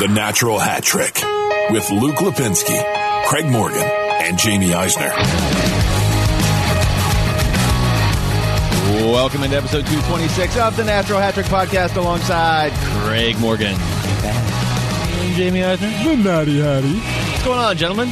The Natural Hat Trick with Luke Lipinski, Craig Morgan, and Jamie Eisner. Welcome into episode 226 of the Natural Hat Trick podcast alongside Craig Morgan and Jamie Eisner. The Natty Hattie. What's going on, gentlemen?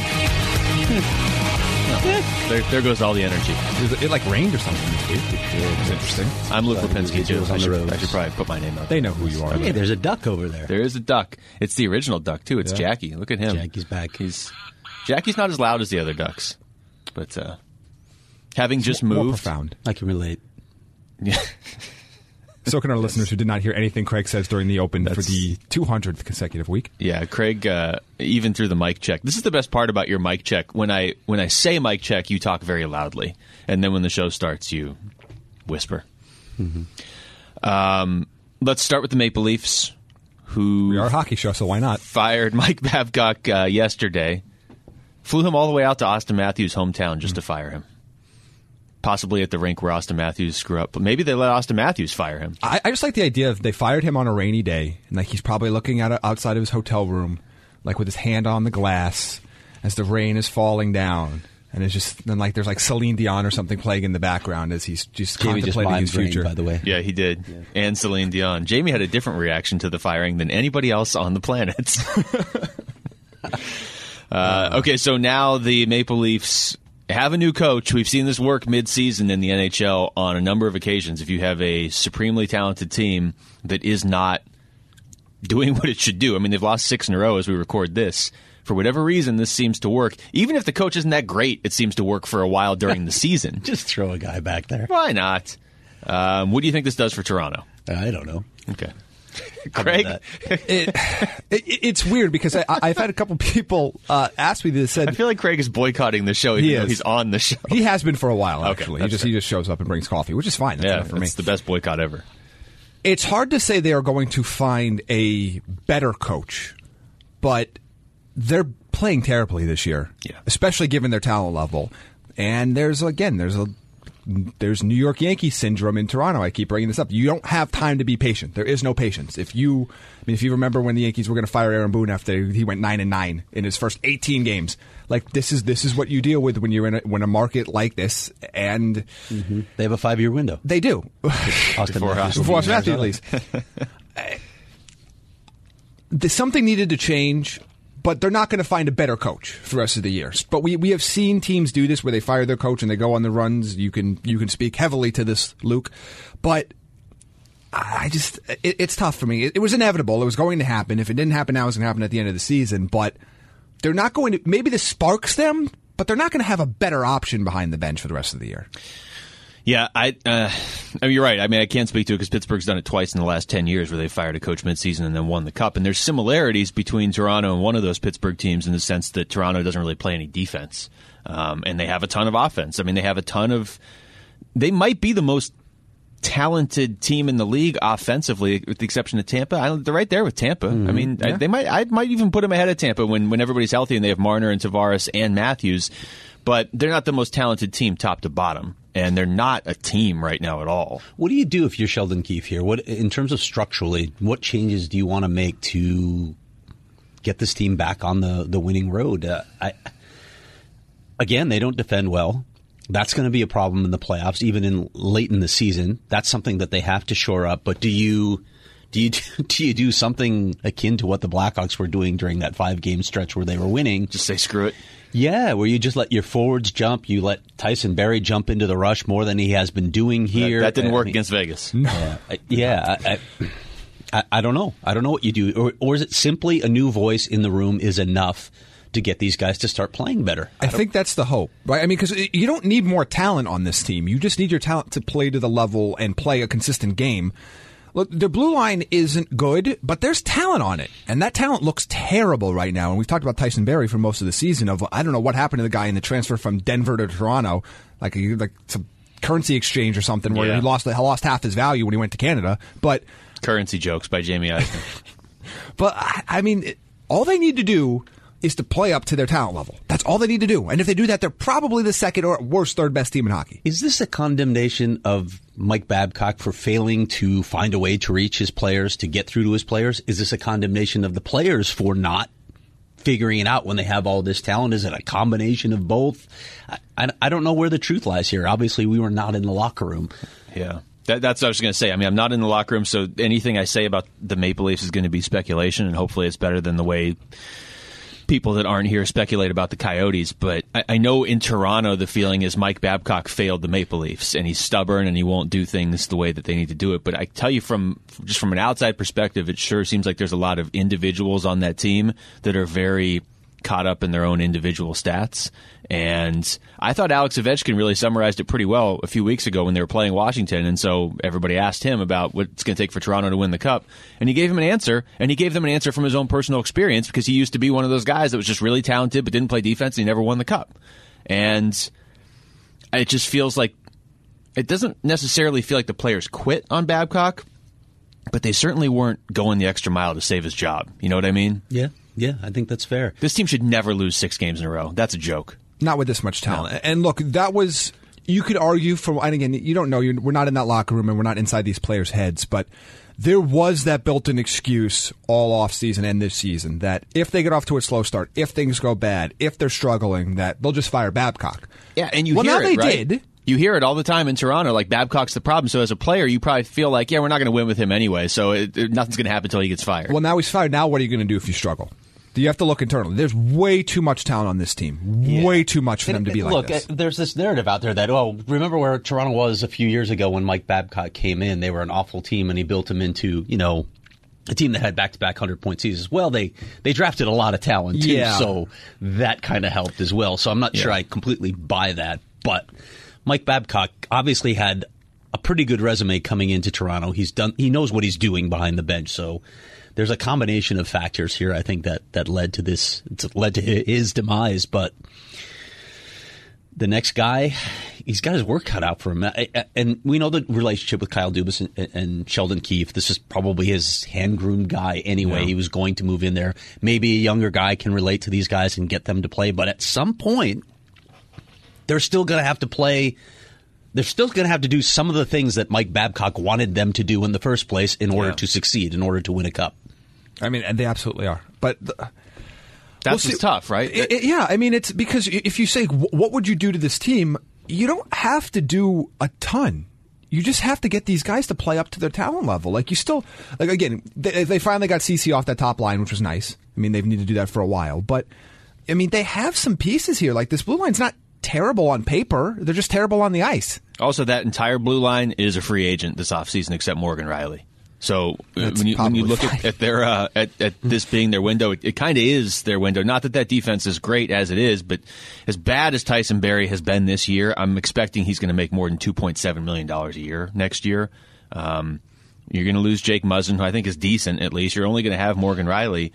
There goes all the energy. It like rained or something this week. It's interesting. I'm Luke Lipinski, too. I should probably put my name out. They know who you are. Hey, there's a duck over there. There is a duck. It's the original duck, too. It's Jackie. Look at him. Jackie's back. Jackie's not as loud as the other ducks. But having just More moved... profound. I can relate. Yeah. So can our listeners who did not hear anything Craig says during the Open for the 200th consecutive week. Yeah, Craig, even through the mic check. This is the best part about your mic check. When I say mic check, you talk very loudly. And then when the show starts, you whisper. Mm-hmm. Let's start with the Maple Leafs, who... We are a hockey show, so why not? Fired Mike Babcock yesterday. Flew him all the way out to Austin Matthews' hometown just to fire him. Possibly at the rink where Austin Matthews screw up. But maybe they let Austin Matthews fire him. I just like the idea of they fired him on a rainy day, and like he's probably looking at outside of his hotel room, like with his hand on the glass as the rain is falling down. And it's just then like there's like Celine Dion or something playing in the background as he's just contemplating his future. By the way, yeah, he did, and Celine Dion. Jamie had a different reaction to the firing than anybody else on the planet. Okay, so now the Maple Leafs have a new coach. We've seen this work mid-season in the NHL on a number of occasions. If you have a supremely talented team that is not doing what it should do, I mean, they've lost 6 in a row as we record this. For whatever reason, this seems to work. Even if the coach isn't that great, it seems to work for a while during the season. just throw a guy back there. Why not? What do you think this does for Toronto? I don't know. Okay. Craig? It's weird because I've had a couple people ask me this. I feel like Craig is boycotting the show even though he's on the show. He has been for a while, actually. Okay, he just shows up and brings coffee, which is fine. That's enough for me. It's the best boycott ever. It's hard to say they are going to find a better coach, but they're playing terribly this year, especially given their talent level. And there's New York Yankees syndrome in Toronto. I keep bringing this up. You don't have time to be patient. There is no patience. If you remember when the Yankees were going to fire Aaron Boone after he went 9-9 in his first 18 games, like this is what you deal with when you're in a market like this. And they have a 5-year window. They do. Before Austin Matthews, at least. Something needed to change. But they're not going to find a better coach for the rest of the year. But we have seen teams do this where they fire their coach and they go on the runs. You can speak heavily to this, Luke. But it's tough for me. It was inevitable. It was going to happen. If it didn't happen now, it was going to happen at the end of the season. But they're not going to. Maybe this sparks them, but they're not going to have a better option behind the bench for the rest of the year. Yeah, I mean, you're right. I mean, I can't speak to it because Pittsburgh's done it twice in the last 10 years where they fired a coach midseason and then won the Cup. And there's similarities between Toronto and one of those Pittsburgh teams in the sense that Toronto doesn't really play any defense. And they have a ton of offense. I mean, they might be the most talented team in the league offensively, with the exception of Tampa. They're right there with Tampa. Mm-hmm. I mean, I might even put them ahead of Tampa when everybody's healthy and they have Marner and Tavares and Matthews. But they're not the most talented team top to bottom. And they're not a team right now at all. What do you do if you're Sheldon Keefe here? What, in terms of structurally, what changes do you want to make to get this team back on the winning road? Again, they don't defend well. That's going to be a problem in the playoffs, even late in the season. That's something that they have to shore up. But do you do something akin to what the Blackhawks were doing during that 5-game stretch where they were winning? Just say screw it. Yeah, where you just let your forwards jump. You let Tyson Barrie jump into the rush more than he has been doing here. That didn't work against Vegas. I don't know. I don't know what you do. Or is it simply a new voice in the room is enough to get these guys to start playing better? I think that's the hope, right? I mean, because you don't need more talent on this team. You just need your talent to play to the level and play a consistent game. Look, the blue line isn't good, but there's talent on it. And that talent looks terrible right now. And we've talked about Tyson Barrie for most of the season. I don't know what happened to the guy in the transfer from Denver to Toronto, like some currency exchange or something where he lost half his value when he went to Canada. But currency jokes by Jamie Eisner. But, I mean, all they need to do is to play up to their talent level. That's all they need to do. And if they do that, they're probably the second or worst third best team in hockey. Is this a condemnation of Mike Babcock for failing to find a way to reach his players, to get through to his players? Is this a condemnation of the players for not figuring it out when they have all this talent? Is it a combination of both? I don't know where the truth lies here. Obviously, we were not in the locker room. Yeah. That's what I was going to say. I mean, I'm not in the locker room, so anything I say about the Maple Leafs is going to be speculation, and hopefully it's better than the way people that aren't here speculate about the Coyotes. But I know in Toronto the feeling is Mike Babcock failed the Maple Leafs, and he's stubborn and he won't do things the way that they need to do it. But I tell you, from an outside perspective, it sure seems like there's a lot of individuals on that team that are very caught up in their own individual stats. And I thought Alex Ovechkin really summarized it pretty well a few weeks ago when they were playing Washington. And so everybody asked him about what it's going to take for Toronto to win the Cup. And he gave him an answer, and he gave them an answer from his own personal experience, because he used to be one of those guys that was just really talented but didn't play defense, and he never won the Cup. And it just feels like it doesn't necessarily feel like the players quit on Babcock, but they certainly weren't going the extra mile to save his job. You know what I mean? Yeah, I think that's fair. This team should never lose 6 games in a row. That's a joke. Not with this much talent. No. And look, that was, you could argue from, and again, you don't know, we're not in that locker room and we're not inside these players' heads, but there was that built-in excuse all offseason and this season that if they get off to a slow start, if things go bad, if they're struggling, that they'll just fire Babcock. Yeah, and you hear it, right? Did. You hear it all the time in Toronto, like Babcock's the problem. So as a player, you probably feel like, yeah, we're not going to win with him anyway, so nothing's going to happen until he gets fired. Well, now he's fired. Now what are you going to do if you struggle? Do you have to look internally? There's way too much talent on this team. Yeah. Way too much for them to be like this. Look, there's this narrative out there that, remember where Toronto was a few years ago when Mike Babcock came in? They were an awful team, and he built them into, a team that had back-to-back 100-point seasons. Well, they drafted a lot of talent, too, so that kind of helped as well. So I'm not sure I completely buy that. But Mike Babcock obviously had a pretty good resume coming into Toronto. He knows what he's doing behind the bench, so there's a combination of factors here, I think, that led to this. It's led to his demise. But the next guy, he's got his work cut out for him. And we know the relationship with Kyle Dubas and Sheldon Keefe. This is probably his hand-groomed guy anyway. Yeah. He was going to move in there. Maybe a younger guy can relate to these guys and get them to play. But at some point, they're still going to have to play. They're still going to have to do some of the things that Mike Babcock wanted them to do in the first place in order to succeed, in order to win a cup. I mean, and they absolutely are. But that's tough, right? I mean, it's because if you say, what would you do to this team, you don't have to do a ton. You just have to get these guys to play up to their talent level. Again, they finally got CeCe off that top line, which was nice. I mean, they've needed to do that for a while. But, I mean, they have some pieces here. Like, this blue line's not terrible on paper. They're just terrible on the ice. Also, that entire blue line is a free agent this offseason except Morgan Riley. So when you look at their at this being their window, it kind of is their window. Not that defense is great as it is, but as bad as Tyson Barrie has been this year, I'm expecting he's going to make more than $2.7 million a year next year. You're going to lose Jake Muzzin, who I think is decent at least. You're only going to have Morgan Riley.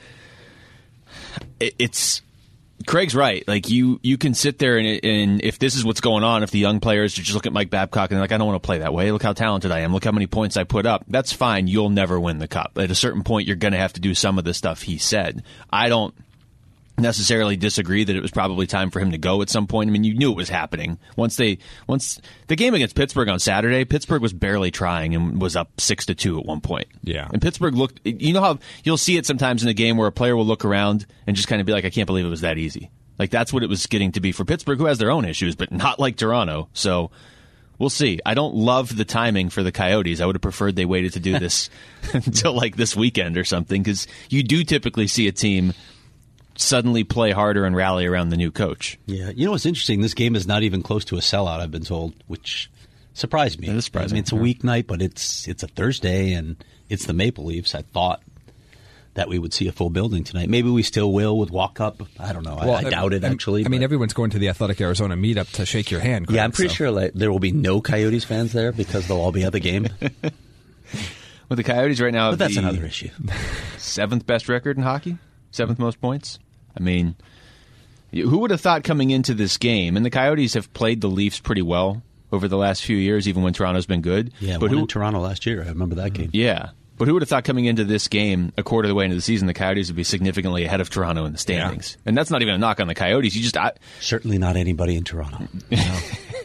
Craig's right. Like you can sit there and if this is what's going on, if the young players just look at Mike Babcock and they're like, I don't want to play that way. Look how talented I am. Look how many points I put up. That's fine. You'll never win the cup. At a certain point, you're going to have to do some of the stuff he said. I don't necessarily disagree that it was probably time for him to go at some point. I mean, you knew it was happening. Once the game against Pittsburgh on Saturday, Pittsburgh was barely trying and was up 6-2 at one point. Yeah. And Pittsburgh looked, you know how you'll see it sometimes in a game where a player will look around and just kind of be like, I can't believe it was that easy. Like that's what it was getting to be for Pittsburgh, who has their own issues, but not like Toronto. So we'll see. I don't love the timing for the Coyotes. I would have preferred they waited to do this until like this weekend or something, because you do typically see a team suddenly play harder and rally around the new coach. Yeah. You know what's interesting? This game is not even close to a sellout, I've been told, which surprised me. It is surprising. I mean, it's a weeknight, but it's a Thursday, and it's the Maple Leafs. I thought that we would see a full building tonight. Maybe we still will with walk-up. I don't know. Well, I doubt it, actually. I mean, everyone's going to the Athletic Arizona meetup to shake your hand, Craig, yeah, I'm pretty sure there will be no Coyotes fans there because they'll all be at the game. Well, the Coyotes right now have that's another issue. 7th best record in hockey, 7th most points. I mean, who would have thought coming into this game? And the Coyotes have played the Leafs pretty well over the last few years, even when Toronto's been good. Yeah, but in Toronto last year, I remember that game. Yeah, But who would have thought coming into this game, a quarter of the way into the season, the Coyotes would be significantly ahead of Toronto in the standings? Yeah. And that's not even a knock on the Coyotes. Certainly not anybody in Toronto. No.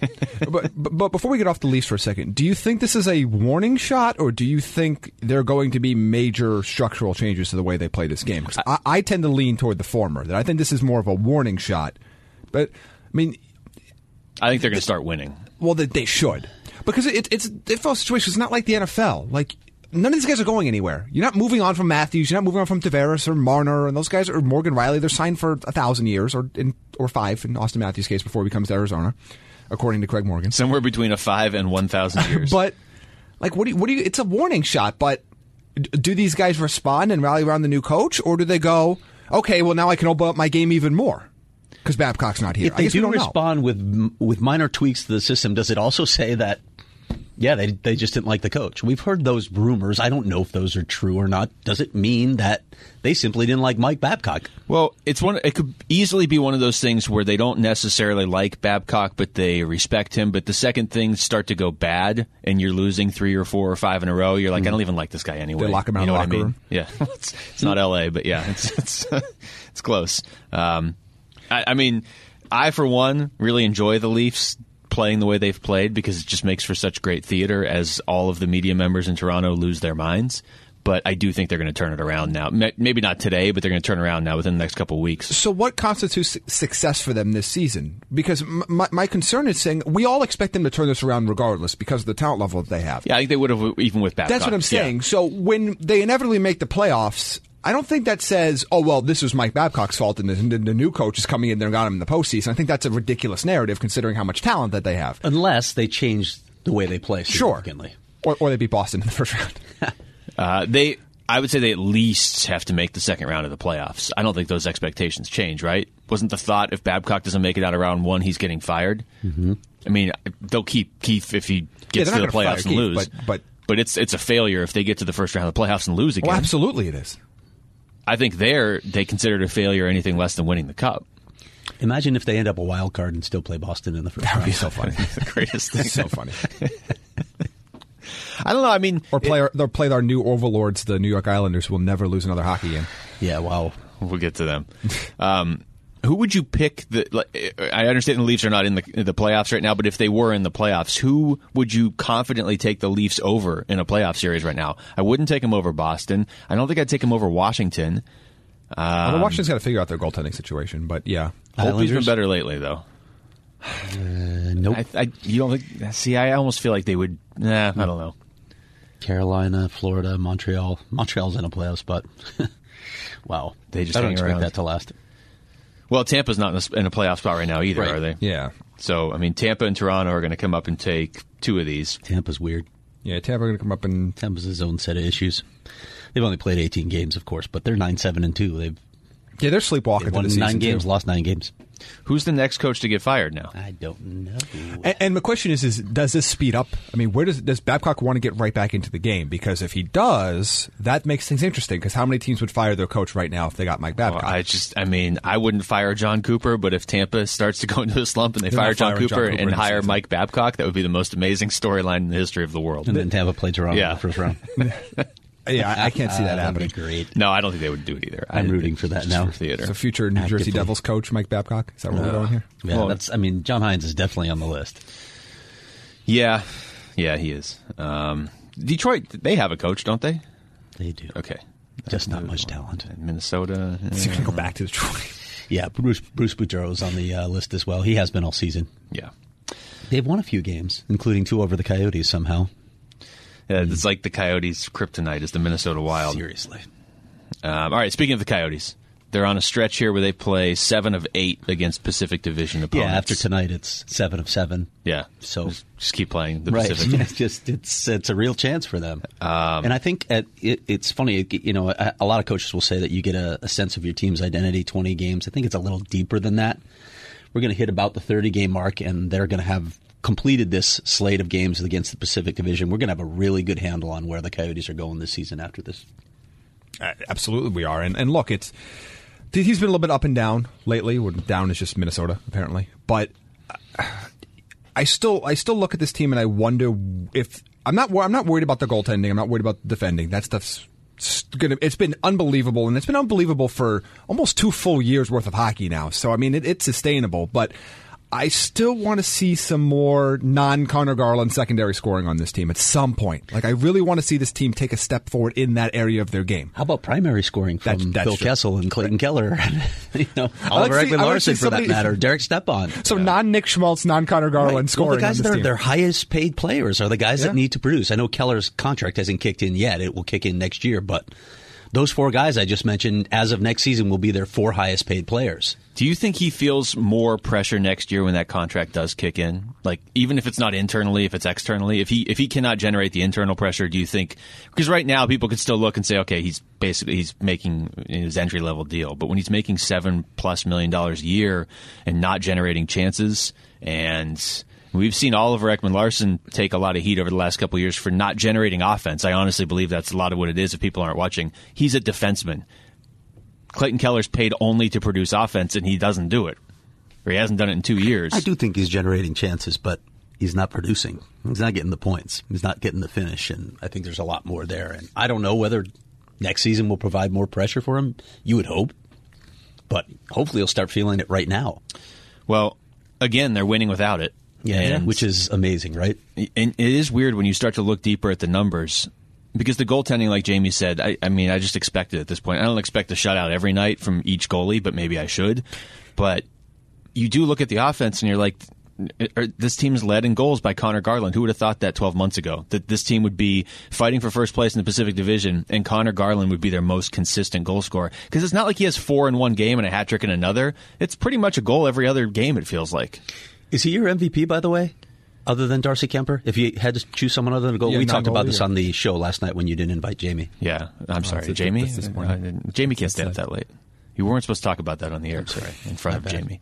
But before we get off the Leafs for a second, do you think this is a warning shot, or do you think there are going to be major structural changes to the way they play this game? 'Cause I tend to lean toward the former. That I think this is more of a warning shot. But I mean, I think they're going to start winning. Well, they should, because it's a difficult situation. It's not like the NFL. Like, none of these guys are going anywhere. You're not moving on from Matthews. You're not moving on from Tavares or Marner, and those guys, or Morgan Riley. They're signed for 1,000 years, or 5 in Austin Matthews' case before he comes to Arizona, according to Craig Morgan. Somewhere between 5 and 1,000 years. But like, what do you? It's a warning shot. But do these guys respond and rally around the new coach, or do they go, okay, well now I can open up my game even more? Because Babcock's not here. If they do respond with minor tweaks to the system, does it also say that, yeah, they just didn't like the coach? We've heard those rumors. I don't know if those are true or not. Does it mean that they simply didn't like Mike Babcock? Well, it could easily be one of those things where they don't necessarily like Babcock, but they respect him. But the second things start to go bad, and you're losing 3 or 4 or 5 in a row, you're like, I don't even like this guy anyway. They lock him out of the locker room. Yeah, it's not L.A., but yeah, it's close. I mean, I, for one, really enjoy the Leafs playing the way they've played because it just makes for such great theater as all of the media members in Toronto lose their minds. But I do think they're going to turn it around now. Maybe not today, but they're going to turn around now within the next couple of weeks. So what constitutes success for them this season? Because my concern is saying we all expect them to turn this around regardless because of the talent level that they have. Yeah, I think they would have even with Babcock. That's what I'm saying. Yeah. So when they inevitably make the playoffs, I don't think that says, oh, well, this was Mike Babcock's fault and the new coach is coming in there and got him in the postseason. I think that's a ridiculous narrative considering how much talent that they have. Unless they change the way they play significantly. Sure. Or they beat Boston in the first round. I would say they at least have to make the second round of the playoffs. I don't think those expectations change, right? Wasn't the thought if Babcock doesn't make it out of round 1, he's getting fired? Mm-hmm. I mean, they'll keep Keefe if he gets to the playoffs and lose. But it's a failure if they get to the first round of the playoffs and lose again. Well, absolutely it is. I think they consider it a failure anything less than winning the cup. Imagine if they end up a wild card and still play Boston in the first round. That would be so funny. The greatest thing. So funny. I don't know. I mean, or they'll play our new overlords, the New York Islanders, who will never lose another hockey game. Yeah, wow. We'll get to them. Who would you pick? I understand the Leafs are not in the playoffs right now, but if they were in the playoffs, who would you confidently take the Leafs over in a playoff series right now? I wouldn't take them over Boston. I don't think I'd take them over Washington. Washington's got to figure out their goaltending situation, but yeah. Holtby's been better lately, though. Nope. You don't think? See, I almost feel like they would. I don't know. Carolina, Florida, Montreal. Montreal's in a playoff spot. Wow. They just I don't hang expect around. that to last. Well, Tampa's not in a playoff spot right now either, Right. are they? Yeah. So, I mean, Tampa and Toronto are going to come up and take 2 of these. Tampa's weird. Yeah, Tampa are going to come up and... Tampa's his own set of issues. They've only played 18 games, of course, but they're 9-7-2. They're sleepwalking won through the season, 9 games, too. lost 9 games. Who's the next coach to get fired now? I don't know. And my question is does this speed up? I mean, where does Babcock want to get right back into the game? Because if he does, that makes things interesting. Because how many teams would fire their coach right now if they got Mike Babcock? Well, I wouldn't fire John Cooper, but if Tampa starts to go into a slump and they They're fire not John firing Cooper John Cooper and in the hire season. Mike Babcock, that would be the most amazing storyline in the history of the world. And then Tampa played Toronto in the first round. Yeah, I can't see that happening. Great. No, I don't think they would do it either. I'm rooting for that just now. For theater. So future New Jersey Actively. Devils coach Mike Babcock? Is that where we're going here? Yeah, Well, John Hines is definitely on the list. Yeah, he is. Detroit, they have a coach, don't they? They do. Okay. Just not much talent. Minnesota. Is he going to go back to Detroit? Yeah, Bruce Boudreau is on the list as well. He has been all season. Yeah. They've won a few games, including 2 over the Coyotes somehow. Yeah, it's like the Coyotes' kryptonite is the Minnesota Wild. Seriously. All right, speaking of the Coyotes, they're on a stretch here where they play 7 of 8 against Pacific Division opponents. Yeah, after tonight it's 7 of 7. Yeah, So just keep playing the right, Pacific. it's a real chance for them. And I think it's funny. A lot of coaches will say that you get a sense of your team's identity 20 games. I think it's a little deeper than that. We're going to hit about the 30-game mark, and they're going to have completed this slate of games against the Pacific Division. We're going to have a really good handle on where the Coyotes are going this season after this. Absolutely, we are. And look, he's been a little bit up and down lately. Down is just Minnesota, apparently. But I still look at this team and I wonder if I'm not worried about the goaltending. I'm not worried about defending. That stuff's it's been unbelievable, and it's been unbelievable for almost 2 full years worth of hockey now. So I mean, it's sustainable, but I still want to see some more non-Connor Garland secondary scoring on this team at some point. Like, I really want to see this team take a step forward in that area of their game. How about primary scoring from Phil Kessel and Clayton Keller? Oliver Ekman-Larsson, for that matter, Derek Stepan. So non-Nick Schmaltz, non-Connor Garland scoring. Well, the guys on this that are team. their highest paid players are the guys that need to produce. I know Keller's contract hasn't kicked in yet. It will kick in next year, but those 4 guys I just mentioned, as of next season, will be their 4 highest paid players. Do you think he feels more pressure next year when that contract does kick in? Like, even if it's not internally, if it's externally, if he cannot generate the internal pressure, do you think? Because right now people could still look and say, okay, he's making his entry level deal, but when he's making $7+ million a year and not generating chances, and we've seen Oliver Ekman-Larsson take a lot of heat over the last couple of years for not generating offense. I honestly believe that's a lot of what it is if people aren't watching. He's a defenseman. Clayton Keller's paid only to produce offense, and he doesn't do it. Or he hasn't done it in 2 years. I do think he's generating chances, but he's not producing. He's not getting the points. He's not getting the finish, and I think there's a lot more there. And I don't know whether next season will provide more pressure for him. You would hope. But hopefully he'll start feeling it right now. Well, again, they're winning without it. Yeah, which is amazing, right? And it is weird when you start to look deeper at the numbers, because the goaltending, like Jamie said, I mean, I just expect it at this point. I don't expect a shutout every night from each goalie, but maybe I should. But you do look at the offense, and you're like, this team's led in goals by Connor Garland. Who would have thought that 12 months ago, that this team would be fighting for first place in the Pacific Division, and Connor Garland would be their most consistent goal scorer? Because it's not like he has 4 in one game and a hat trick in another. It's pretty much a goal every other game, it feels like. Is he your MVP, by the way, other than Darcy Kemper? If you had to choose someone other than a goal, we talked about this on the show last night when you didn't invite Jamie. Yeah, I'm sorry, Jamie. Jamie can't stay up that late. You weren't supposed to talk about that on the air, sorry, in front of Jamie.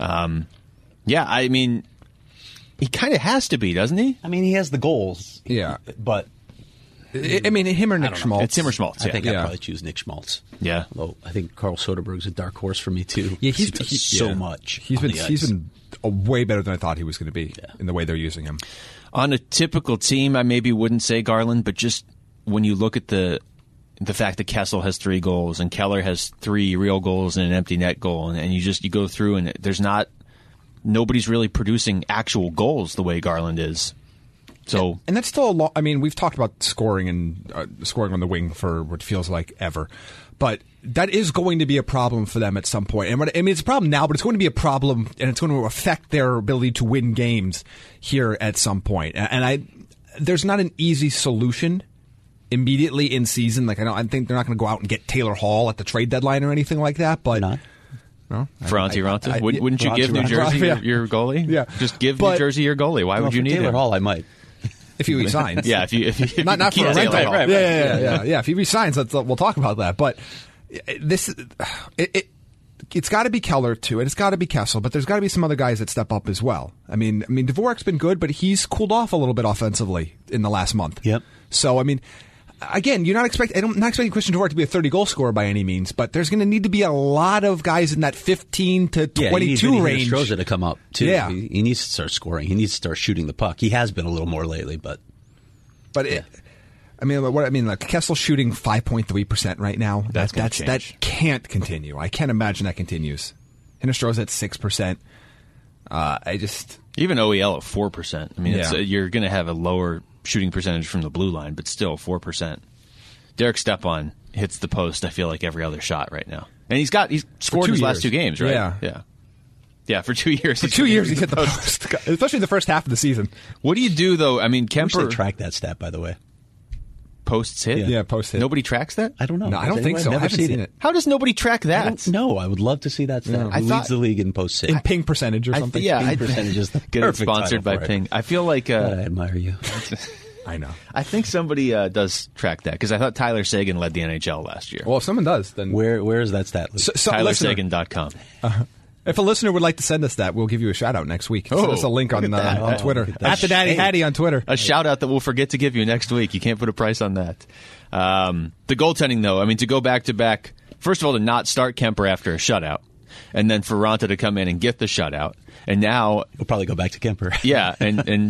Yeah, I mean, he kind of has to be, doesn't he? I mean, he has the goals. Yeah, but I mean, him or Nick Schmaltz? It's him or Schmaltz. I think I'd probably choose Nick Schmaltz. Yeah, although I think Carl Soderberg's a dark horse for me too. Yeah, he's so much. He's been way better than I thought he was going to be in the way they're using him. On a typical team, I maybe wouldn't say Garland, but just when you look at the fact that Kessel has 3 goals and Keller has 3 real goals and an empty net goal, and you go through and nobody's really producing actual goals the way Garland is. So, and that's still a lot. I mean, we've talked about scoring and scoring on the wing for what feels like ever, but that is going to be a problem for them at some point. And I mean, it's a problem now, but it's going to be a problem, and it's going to affect their ability to win games here at some point. And there's not an easy solution immediately in season. Like, I think they're not going to go out and get Taylor Hall at the trade deadline or anything like that. But not. No, Franti Ranta? Wouldn't you give New Jersey your goalie? Yeah, just give New Jersey your goalie. Why would you need Taylor him? Hall? I might. If he resigns. Yeah, if you not for a rental. Right. Yeah. If he resigns, we'll talk about that. But it's got to be Keller too, and it's got to be Kessel, but there's got to be some other guys that step up as well. I mean, Dvorak's been good, but he's cooled off a little bit offensively in the last month. Yep. So I mean, again, I'm not expecting Christian Dvorak to be a 30 goal scorer by any means, but there's going to need to be a lot of guys in that 15 to 22 range. Stroza to come up too. Yeah. He needs to start scoring. He needs to start shooting the puck. He has been a little more lately, but like Kessel's shooting 5.3% right now. That can't continue. I can't imagine that continues. Hinostroza at 6%. Even OEL at 4%. I mean, you're going to have a lower shooting percentage from the blue line, but still 4%. Derek Stepan hits the post, I feel like, every other shot right now. And he's scored his last 2 games, right? Yeah, for 2 years. For 2 years he's hit the post, especially in the first half of the season. What do you do, though? I mean, Kemper... I wish they track that stat, by the way. Posts hit? Yeah, posts hit. Nobody tracks that? I don't know. No, I don't think so. I haven't seen it. How does nobody track that? I don't know. I would love to see that stat. Who leads the league in posts hit? In ping percentage or something? Ping percentage is the get it sponsored by Ping. I feel like... I admire you. I know. I think somebody does track that, because I thought Tyler Seguin led the NHL last year. Well, if someone does, then... Where is that stat? TylerSegan.com. If a listener would like to send us that, we'll give you a shout-out next week. Send us a link on Twitter. At the Daddy Hattie on Twitter. A shout-out that we'll forget to give you next week. You can't put a price on that. The goaltending, though, I mean, to go back-to-back, first of all, to not start Kemper after a shutout, and then for Ranta to come in and get the shutout, and now... We'll probably go back to Kemper. Yeah, and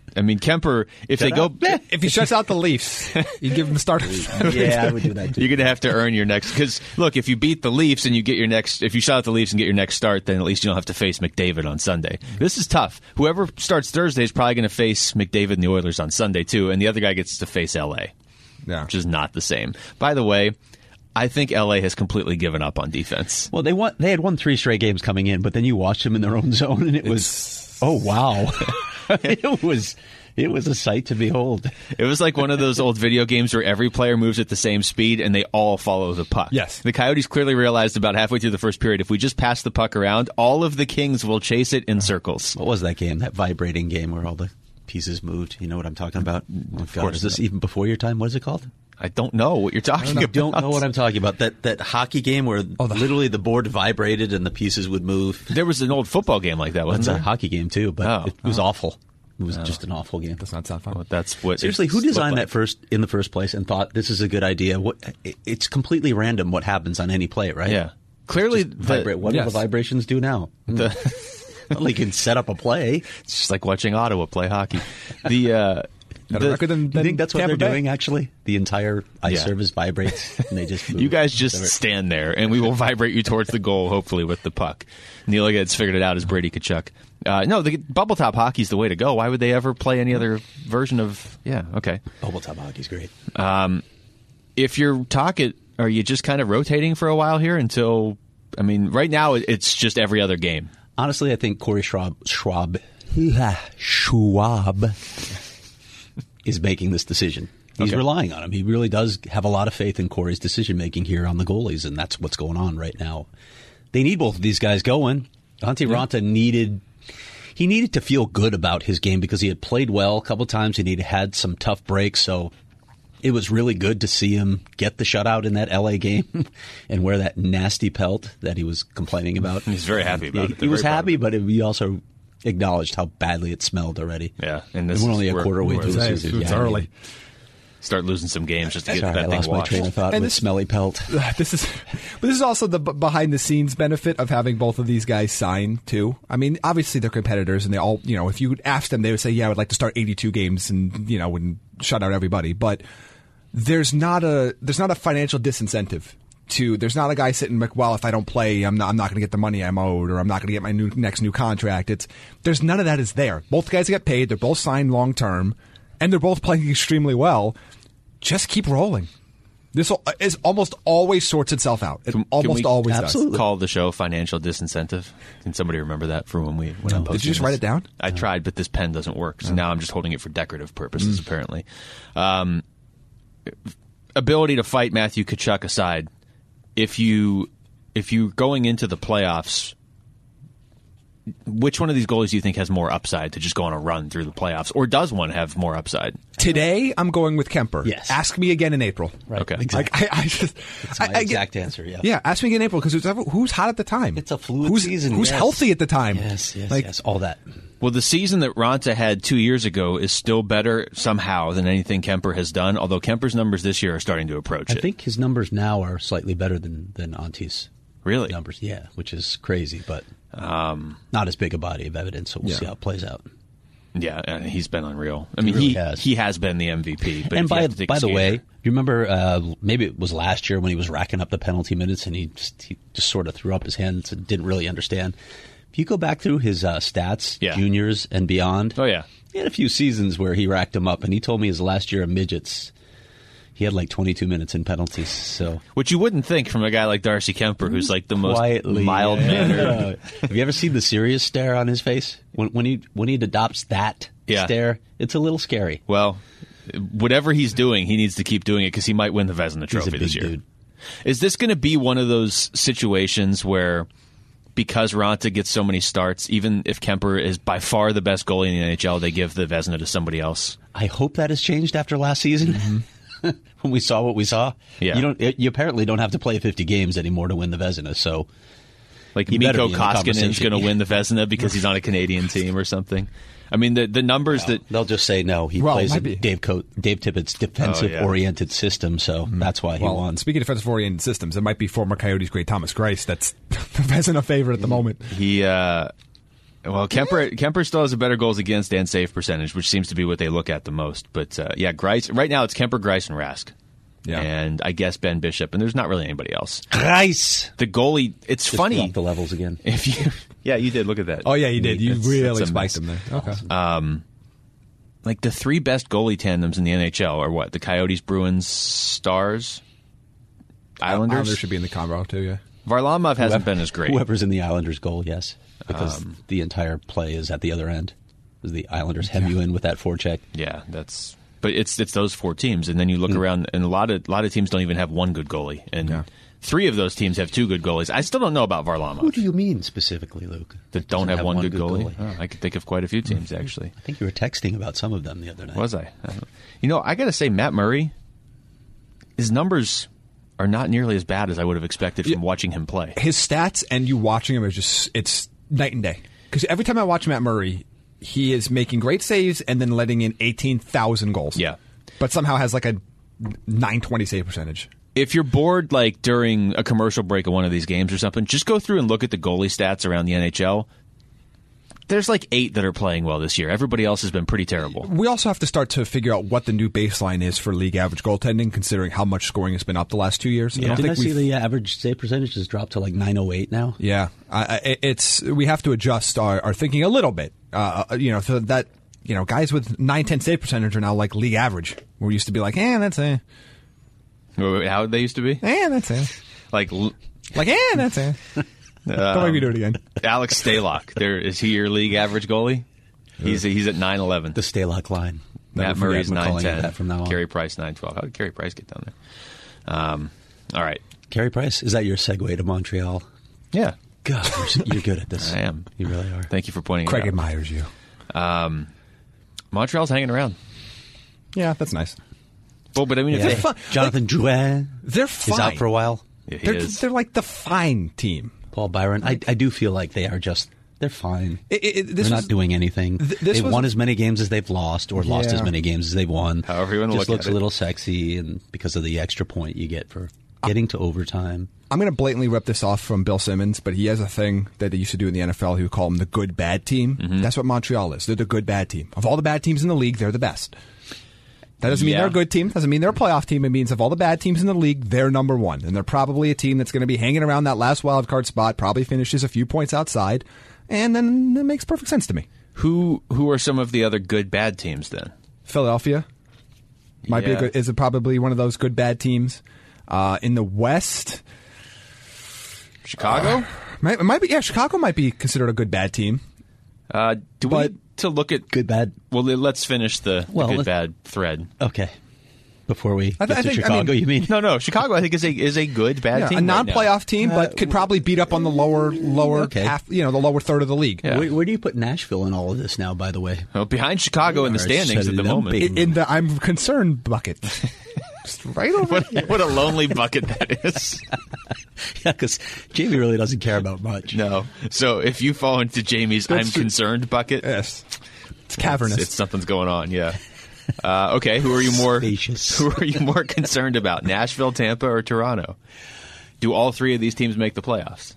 I mean, Kemper, if they go... If he shuts out the Leafs, you give him the start. Yeah, I would do that too. You're going to have to earn your next... Because, look, if you beat the Leafs and you get your next... If you shut out the Leafs and get your next start, then at least you don't have to face McDavid on Sunday. This is tough. Whoever starts Thursday is probably going to face McDavid and the Oilers on Sunday, too, and the other guy gets to face L.A., which is not the same. By the way, I think L.A. has completely given up on defense. Well, they had won 3 straight games coming in, but then you watched them in their own zone, and it was... Oh, wow. It was a sight to behold. It was like one of those old video games where every player moves at the same speed and they all follow the puck. Yes. The Coyotes clearly realized about halfway through the first period, if we just pass the puck around, all of the Kings will chase it in circles. What was that game? That vibrating game where all the pieces moved? You know what I'm talking about? Oh, God, is this even before your time? What is it called? I don't know what you're talking about. I don't know what I'm talking about. That hockey game where literally the board vibrated and the pieces would move. There was an old football game like that, wasn't there? That's a hockey game, too, but it was awful. It was just an awful game. Does not sound fun. Well, that's what seriously, who designed that in the first place and thought this is a good idea? It's completely random what happens on any play, right? Yeah. Clearly, what do the vibrations do now? Well, you can set up a play. It's just like watching Ottawa play hockey. Do you think that's what they're doing, actually? The entire ice surface vibrates, and they just move. You guys just stand there, and we will vibrate you towards the goal, hopefully, with the puck. Neil Liggett's figured it out as Brady Tkachuk. No, the bubble top hockey's the way to go. Why would they ever play any other version of... Yeah, okay. Bubble top hockey's great. If you're talking, are you just kind of rotating for a while here until... I mean, right now, it's just every other game. Honestly, I think Corey Schwab is making this decision. He's relying on him. He really does have a lot of faith in Corey's decision-making here on the goalies, and that's what's going on right now. They need both of these guys going. Antti Raanta needed to feel good about his game because he had played well a couple times and he'd had some tough breaks, so it was really good to see him get the shutout in that L.A. game and wear that nasty pelt that he was complaining about. He's very happy about it. He was happy, but he also acknowledged how badly it smelled already. Yeah, and we're only a quarter way through the season. It's early. Start losing some games just to get that thing washed. I lost my train of thought with smelly pelt. This is also the behind the scenes benefit of having both of these guys sign too. I mean, obviously they're competitors, and they all, if you would ask them, they would say, "Yeah, I would like to start 82 games and and shut out everybody." But there's not a financial disincentive. There's not a guy sitting like, well, if I don't play, I'm not going to get the money I'm owed, or I'm not going to get my next new contract. There's none of that is there. Both guys get paid. They're both signed long term, and they're both playing extremely well. Just keep rolling. This is almost always sorts itself out. It almost always does. Call the show financial disincentive. Can somebody remember that for when I'm posting? Did you just write it down? I tried, but this pen doesn't work. So now I'm just holding it for decorative purposes, apparently. Ability to fight Matthew Tkachuk aside, if you're going into the playoffs, which one of these goalies do you think has more upside to just go on a run through the playoffs, or does one have more upside? Today, I'm going with Kemper. Yes. Ask me again in April. Right. Okay. Exactly. That's my exact answer. Yeah. Yeah. Ask me again in April because who's hot at the time? It's a fluid season. Who's healthy at the time? Yes. All that. Well, the season that Raanta had 2 years ago is still better somehow than anything Kemper has done, although Kemper's numbers this year are starting to approach it. I think his numbers now are slightly better than Antti's numbers. Yeah, which is crazy, but not as big a body of evidence, so we'll see how it plays out. Yeah, and he's been unreal. I mean, he has been the MVP. But and by the way, you remember maybe it was last year when he was racking up the penalty minutes and he just sort of threw up his hands and didn't really understand. If you go back through his stats, juniors and beyond, he had a few seasons where he racked them up, and he told me his last year of midgets, he had like 22 minutes in penalties. So, which you wouldn't think from a guy like Darcy Kemper, who's like the most mild-mannered. Have you ever seen the serious stare on his face when he adopts that stare? It's a little scary. Well, whatever he's doing, he needs to keep doing it because he might win the Vezina Trophy this year. Dude. Is this going to be one of those situations where, because Raanta gets so many starts, even if Kemper is by far the best goalie in the NHL, they give the Vezina to somebody else? I hope that has changed after last season. Mm-hmm. When we saw what we saw, you apparently don't have to play 50 games anymore to win the Vezina. So, like Mikko Koskinen's going to win the Vezina because he's on a Canadian team or something. I mean, the numbers that they'll just say no. He plays in Dave Tippett's defensive-oriented system, so that's why he won. Speaking of defensive-oriented systems, it might be former Coyotes great Thomas Greiss. That's the Vezina favorite at the moment. Well, Kemper still has a better goals against and save percentage, which seems to be what they look at the most. But Greiss. Right now, it's Kemper, Greiss, and Rask. Yeah. And I guess Ben Bishop, and there's not really anybody else. Greiss! The goalie, it's just funny. Just the levels again. You did. Look at that. Oh, yeah, you did. You really spiked them there. Okay. Like the three best goalie tandems in the NHL are what? The Coyotes, Bruins, Stars, Islanders? Islanders should be in the combo, too, yeah. Varlamov hasn't been as great. Whoever's in the Islanders' goal, yes. Because the entire play is at the other end. The Islanders hem you in with that forecheck. Yeah, but it's those four teams, and then you look around, and a lot of teams don't even have one good goalie, and three of those teams have two good goalies. I still don't know about Varlamov. Who do you mean specifically, Luke? That don't have one good goalie? Oh, I could think of quite a few teams, actually. I think you were texting about some of them the other night. Was I? I got to say, Matt Murray, his numbers are not nearly as bad as I would have expected from watching him play. His stats and you watching him it's night and day. Because every time I watch Matt Murray, he is making great saves and then letting in 18,000 goals. Yeah. But somehow has like a 920 save percentage. If you're bored like during a commercial break of one of these games or something, just go through and look at the goalie stats around the NHL. There's like 8 that are playing well this year. Everybody else has been pretty terrible. We also have to start to figure out what the new baseline is for league average goaltending, considering how much scoring has been up the last 2 years. Yeah. Didn't I see the average save percentage has dropped to like 908 now? Yeah. We have to adjust our thinking a little bit. So that, guys with 9-10 save percentage are now like league average. We used to be like, that's a... How they used to be? That's it. That's it. Don't make me do it again. Alex Stalock. Is he your league average goalie? He's at 9'11". The Stalock line. Matt Murray's 9'10". From now on. Carey Price 9'12". How did Carey Price get down there? All right. Carey Price, is that your segue to Montreal? Yeah. God, you're good at this. I am. You really are. Thank you for pointing Craig it out. admires you. Montreal's hanging around. Yeah, that's nice. Well, but I mean, they're fun. Jonathan Drouin they're fine. is out for a while. Yeah, they're like the fine team. Paul Byron, I do feel like they're fine. They're not doing anything. They've won as many games as they've lost, or lost as many games as they've won. However you want to look at it. Just looks a little sexy, and because of the extra point you get for getting to overtime. I'm going to blatantly rip this off from Bill Simmons, but he has a thing that they used to do in the NFL. He would call them the good bad team. Mm-hmm. That's what Montreal is. They're the good bad team. Of all the bad teams in the league, they're the best. That doesn't mean they're a good team. Doesn't mean they're a playoff team. It means of all the bad teams in the league, they're number one. And they're probably a team that's going to be hanging around that last wild card spot, probably finishes a few points outside, and then it makes perfect sense to me. Who are some of the other good bad teams then? Philadelphia is probably one of those good bad teams. In the West, Chicago? It might be. Yeah, Chicago might be considered a good bad team. We need to look at good bad? Well, let's finish the good bad thread. Okay. Before we get to Chicago, you mean? No. Chicago, I think is a good bad team. A non-playoff team, but could probably beat up on the lower half, the lower third of the league. Yeah. Where do you put Nashville in all of this now? By the way, well, behind Chicago in the standings at the moment. In the I'm concerned bucket. Just right over here. What a lonely bucket that is. Yeah, because Jamie really doesn't care about much. No. So if you fall into Jamie's I'm concerned bucket, yes, it's cavernous. It's something's going on. Yeah. Okay. Who are you more concerned about? Nashville, Tampa, or Toronto? Do all three of these teams make the playoffs?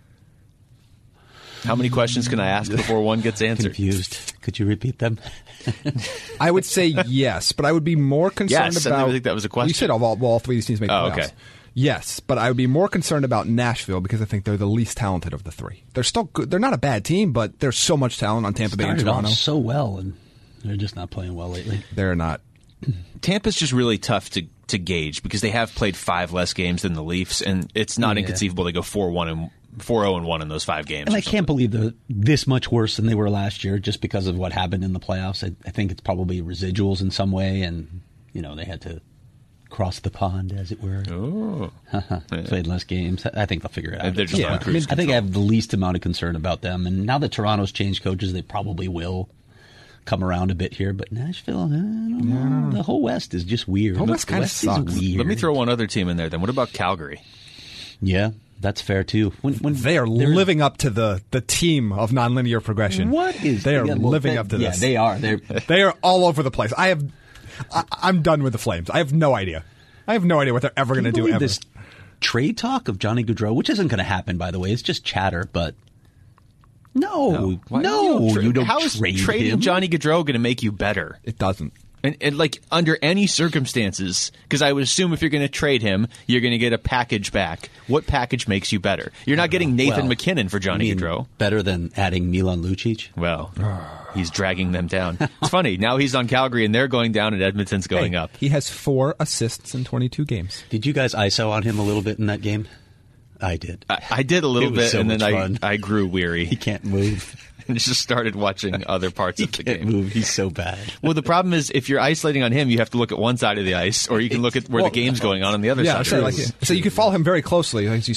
How many questions can I ask before one gets answered? Confused. Could you repeat them? I would say yes, but I would be more concerned about. I didn't think that was a question. You said all three of these teams make the playoffs. Okay. Yes, but I would be more concerned about Nashville because I think they're the least talented of the three. They're still good. They're not a bad team, but there's so much talent on Tampa Bay and Toronto. So well, and they're just not playing well lately. They're not. Tampa's just really tough to gauge because they have played 5 less games than the Leafs, and it's not inconceivable they go 4-0-1 in those 5 games. And I can't believe they're this much worse than they were last year just because of what happened in the playoffs. I think it's probably residuals in some way, and they had to cross the pond, as it were. Oh. Played less games. I think they'll figure it out. They're just on cruise control. I think I have the least amount of concern about them, and now that Toronto's changed coaches, they probably will come around a bit here, but Nashville, I don't know. The whole West is just weird. The whole West kind of sucks. Weird. Let me throw one other team in there then. What about Calgary? Yeah, that's fair too. When they are living up to the team of nonlinear progression. They are living up to this. Yeah, they are. They are all over the place. I'm done with the Flames. I have no idea. What they're ever going to do ever. This trade talk of Johnny Gaudreau, which isn't going to happen, by the way. It's just chatter, but No. You don't How is trade trading him. Johnny Gaudreau going to make you better? It doesn't. And like under any circumstances, because I would assume if you're going to trade him, you're going to get a package back. What package makes you better? You're not getting Nathan McKinnon for Johnny Gaudreau. Better than adding Milan Lucic? Well, he's dragging them down. It's funny. Now he's on Calgary, and they're going down, and Edmonton's going up. He has 4 assists in 22 games. Did you guys ISO on him a little bit in that game? I did. I did a little bit, so and then much fun. I grew weary. He can't move. And just started watching other parts of the Can't game. move. He's so bad. Well, the problem is if you're isolating on him, you have to look at one side of the ice, or you can look at where the game's going on the other side. So, so you can follow him very closely as he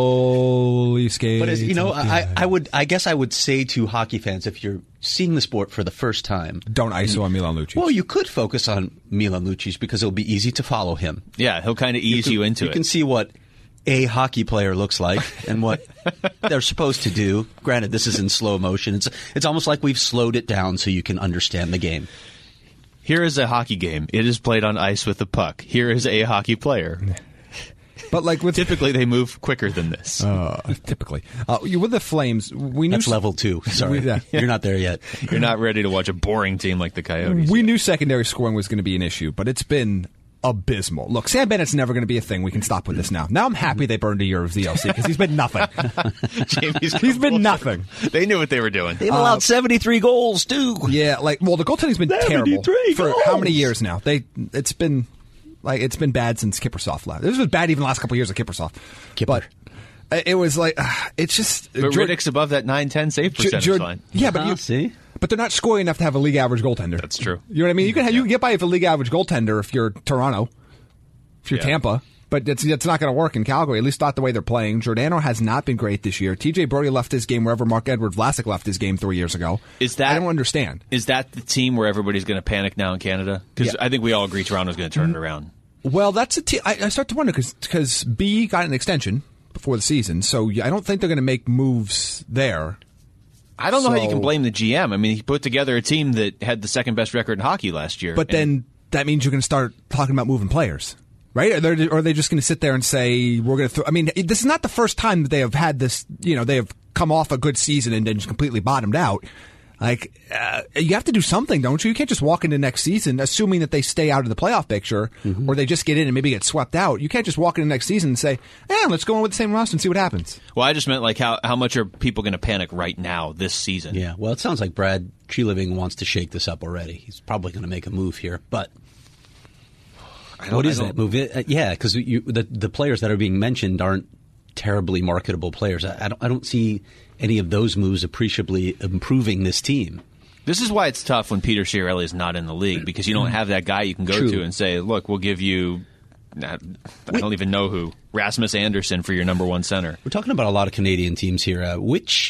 slowly skates. But as you know, I guess I would say to hockey fans, if you're seeing the sport for the first time, don't ISO on Milan Lucic. Well, you could focus on Milan Lucic because it'll be easy to follow him. Yeah, he'll kind of ease you into it. You can see what a hockey player looks like and what they're supposed to do. Granted, this is in slow motion. It's almost like we've slowed it down so you can understand the game. Here is a hockey game. It is played on ice with the puck. Here is a hockey player. But like typically they move quicker than this. Typically, with the Flames, we knew that's level 2. Sorry, you're not there yet. You're not ready to watch a boring team like the Coyotes. We knew secondary scoring was going to be an issue, but it's been abysmal. Look, Sam Bennett's never going to be a thing. We can stop with this now. Now I'm happy they burned a year of ZLC because he's been nothing. He's been nothing. They knew what they were doing. They've allowed 73 goals too. Yeah, the goaltending's been terrible for how many years now? It's been bad since Kiprusoff left. This was bad even the last couple of years of Kiprusoff. But it was like it's just. But Riddick's above that 9-10 save percentage line. Yeah, but see. But they're not scoring enough to have a league average goaltender. That's true. You know what I mean? You can get by with a league average goaltender if you're Toronto, if you're Tampa, but it's not going to work in Calgary. At least not the way they're playing. Giordano has not been great this year. TJ Brodie left his game wherever Marc-Edouard Vlasic left his game 3 years ago. I don't understand. Is that the team where everybody's going to panic now in Canada? Because I think we all agree Toronto's going to turn it around. Well, that's a team. I start to wonder because B got an extension before the season, so I don't think they're going to make moves there. I don't know how you can blame the GM. I mean, he put together a team that had the second best record in hockey last year. But then that means you're going to start talking about moving players, right? Or are they just going to sit there and say, we're going to I mean, this is not the first time that they have had this, they have come off a good season and then just completely bottomed out. Like, you have to do something, don't you? You can't just walk into next season assuming that they stay out of the playoff picture or they just get in and maybe get swept out. You can't just walk into next season and say, let's go on with the same roster and see what happens. Well, I just meant like how much are people going to panic right now this season? Yeah, well, it sounds like Brad Treliving wants to shake this up already. He's probably going to make a move here, but what is that move? Yeah, because the players that are being mentioned aren't terribly marketable players. I don't see any of those moves appreciably improving this team. This is why it's tough when Peter Chiarelli is not in the league, because you don't have that guy you can go to and say, look, we'll give you, I don't even know who, Rasmus Anderson for your number one center. We're talking about a lot of Canadian teams here. Which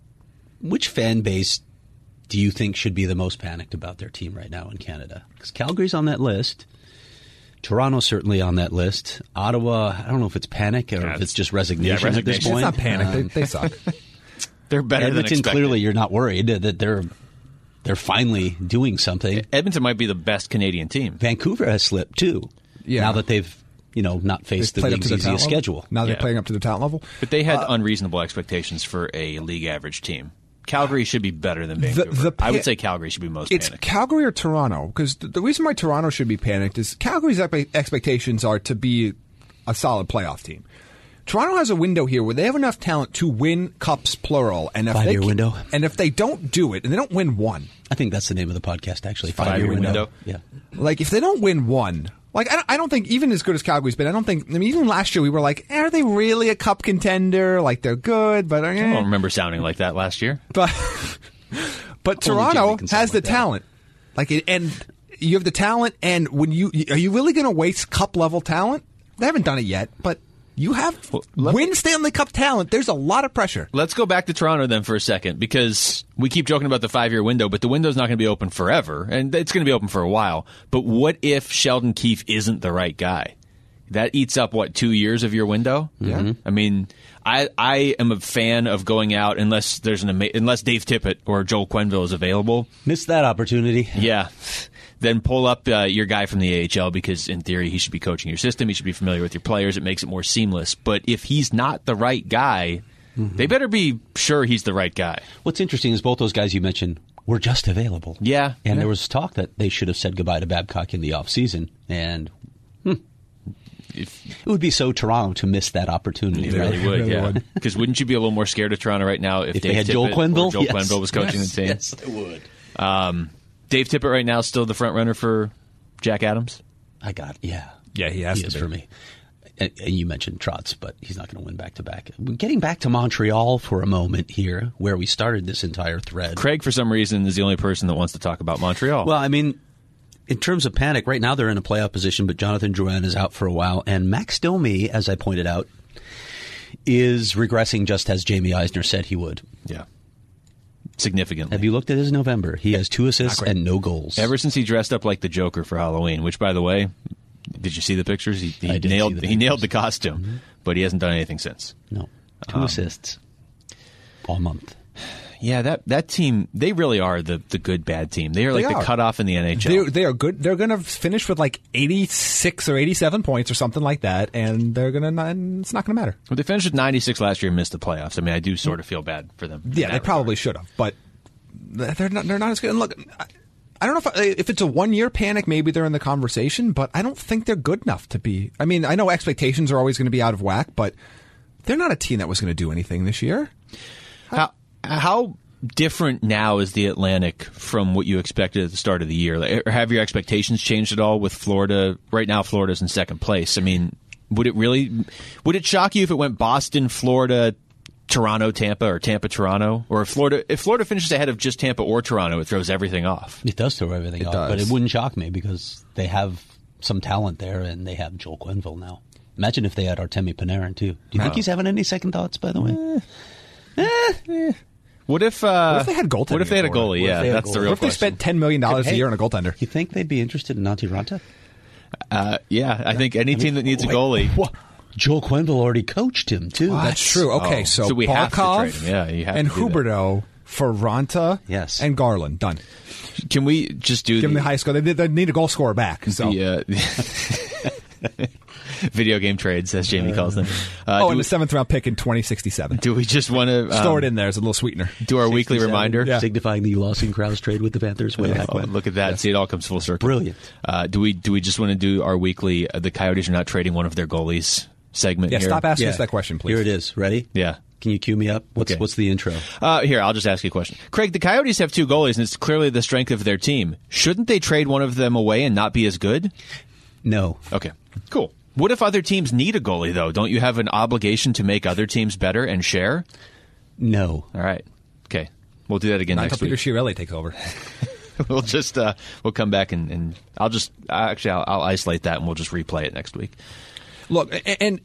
fan base do you think should be the most panicked about their team right now in Canada? Because Calgary's on that list. Toronto's certainly on that list. Ottawa, I don't know if it's panic or if it's just resignation at this point. It's not panic. They suck. They're better Edmonton, than expected. Clearly, you're not worried that they're finally doing something. Edmonton might be the best Canadian team. Vancouver has slipped too. Yeah. Now that they've not faced the league's easiest schedule. Now they're playing up to the talent level. But they had unreasonable expectations for a league average team. Calgary should be better than Vancouver. I would say Calgary should be most panicked. It's Calgary or Toronto, because the reason why Toronto should be panicked is Calgary's expectations are to be a solid playoff team. Toronto has a window here where they have enough talent to win cups, plural. And if 5-year window. And if they don't do it, and they don't win one. I think that's the name of the podcast, actually. 5-year window. Yeah. Like, if they don't win one, like, I don't think, even as good as Calgary's been, even last year we were like, are they really a cup contender? Like, they're good, but... I don't remember sounding like that last year. But Toronto has the talent. And you have the talent, and are you really going to waste cup-level talent? They haven't done it yet, but... You have win Stanley Cup talent. There's a lot of pressure. Let's go back to Toronto then for a second, because we keep joking about the 5-year window, but the window's not going to be open forever, and it's going to be open for a while. But what if Sheldon Keefe isn't the right guy? That eats up, 2 years of your window? Yeah. I mean, I am a fan of going out unless there's unless Dave Tippett or Joel Quenneville is available. Missed that opportunity. Yeah. Then pull up your guy from the AHL, because in theory he should be coaching your system. He should be familiar with your players. It makes it more seamless. But if he's not the right guy, They better be sure he's the right guy. What's interesting is both those guys you mentioned were just available. Yeah. And there was talk that they should have said goodbye to Babcock in the offseason. And it would be so Toronto to miss that opportunity. It really would, yeah. Because wouldn't you be a little more scared of Toronto right now if they had Joel Quenneville? Joel Quenneville was coaching the team? Yes, I would. Dave Tippett right now still the front runner for Jack Adams? Yeah, he has to is be. for me. And you mentioned Trotz, but he's not going to win back-to-back. Getting back to Montreal for a moment here, where we started this entire thread. Craig, for some reason, is the only person that wants to talk about Montreal. Well, I mean, in terms of panic, right now they're in a playoff position, but Jonathan Drouin is out for a while. And Max Domi, as I pointed out, is regressing just as Jamie Eisner said he would. Yeah. Significantly. Have you looked at his November? He has 2 assists and no goals. Ever since he dressed up like the Joker for Halloween, which, by the way, did you see the pictures? He nailed the costume, but he hasn't done anything since. No. 2 assists all month. Yeah, that team, they really are the good, bad team. They are like the cutoff in the NHL. They are good. They're going to finish with like 86 or 87 points or something like that, and it's not going to matter. Well, they finished with 96 last year and missed the playoffs. I mean, I do sort of feel bad for them. Yeah, they probably should have, but they're not as good. And look, I don't know if it's a one-year panic, maybe they're in the conversation, but I don't think they're good enough to be. I mean, I know expectations are always going to be out of whack, but they're not a team that was going to do anything this year. How different now is the Atlantic from what you expected at the start of the year? Like, have your expectations changed at all with Florida? Right now, Florida's in second place. I mean, would it shock you if it went Boston, Florida, Toronto, Tampa, or Tampa, Toronto? Or if Florida finishes ahead of just Tampa or Toronto, it throws everything off. It does throw everything off, but it wouldn't shock me because they have some talent there and they have Joel Quenneville now. Imagine if they had Artemi Panarin, too. Do you think he's having any second thoughts, by the way? What if they had goaltending? What if they had a goalie? Yeah, that's the real question. What if they spent $10 million a year on a goaltender? You think they'd be interested in Antti Ranta? Yeah, I think any team that needs a goalie. What? Joel Quenneville already coached him, too. That's true. Okay, so we have to trade Barkov him. Yeah, you have and to do Huberdeau for Ranta and Garland. Done. Can we just do give them the high score? They need a goal scorer back. So. Video game trades, as Jamie calls them. And the 7th round pick in 2067. Do we just want to store it in there as a little sweetener? Do our weekly reminder, signifying the Lawson Krause trade with the Panthers way back when. Look at that! Yes. See, it all comes full circle. Brilliant. Do we just want to do our weekly? The Coyotes are not trading one of their goalies segment. Yeah, here? Stop asking us that question, please. Here it is. Ready? Yeah. Can you cue me up? What's the intro? Here, I'll just ask you a question. Craig, the Coyotes have 2 goalies, and it's clearly the strength of their team. Shouldn't they trade one of them away and not be as good? No. Okay, cool. What if other teams need a goalie, though? Don't you have an obligation to make other teams better and share? No. All right. Okay. We'll do that again next week. Peter Chiarelli takes over. We'll just we'll come back and I'll isolate that and we'll just replay it next week. Look, and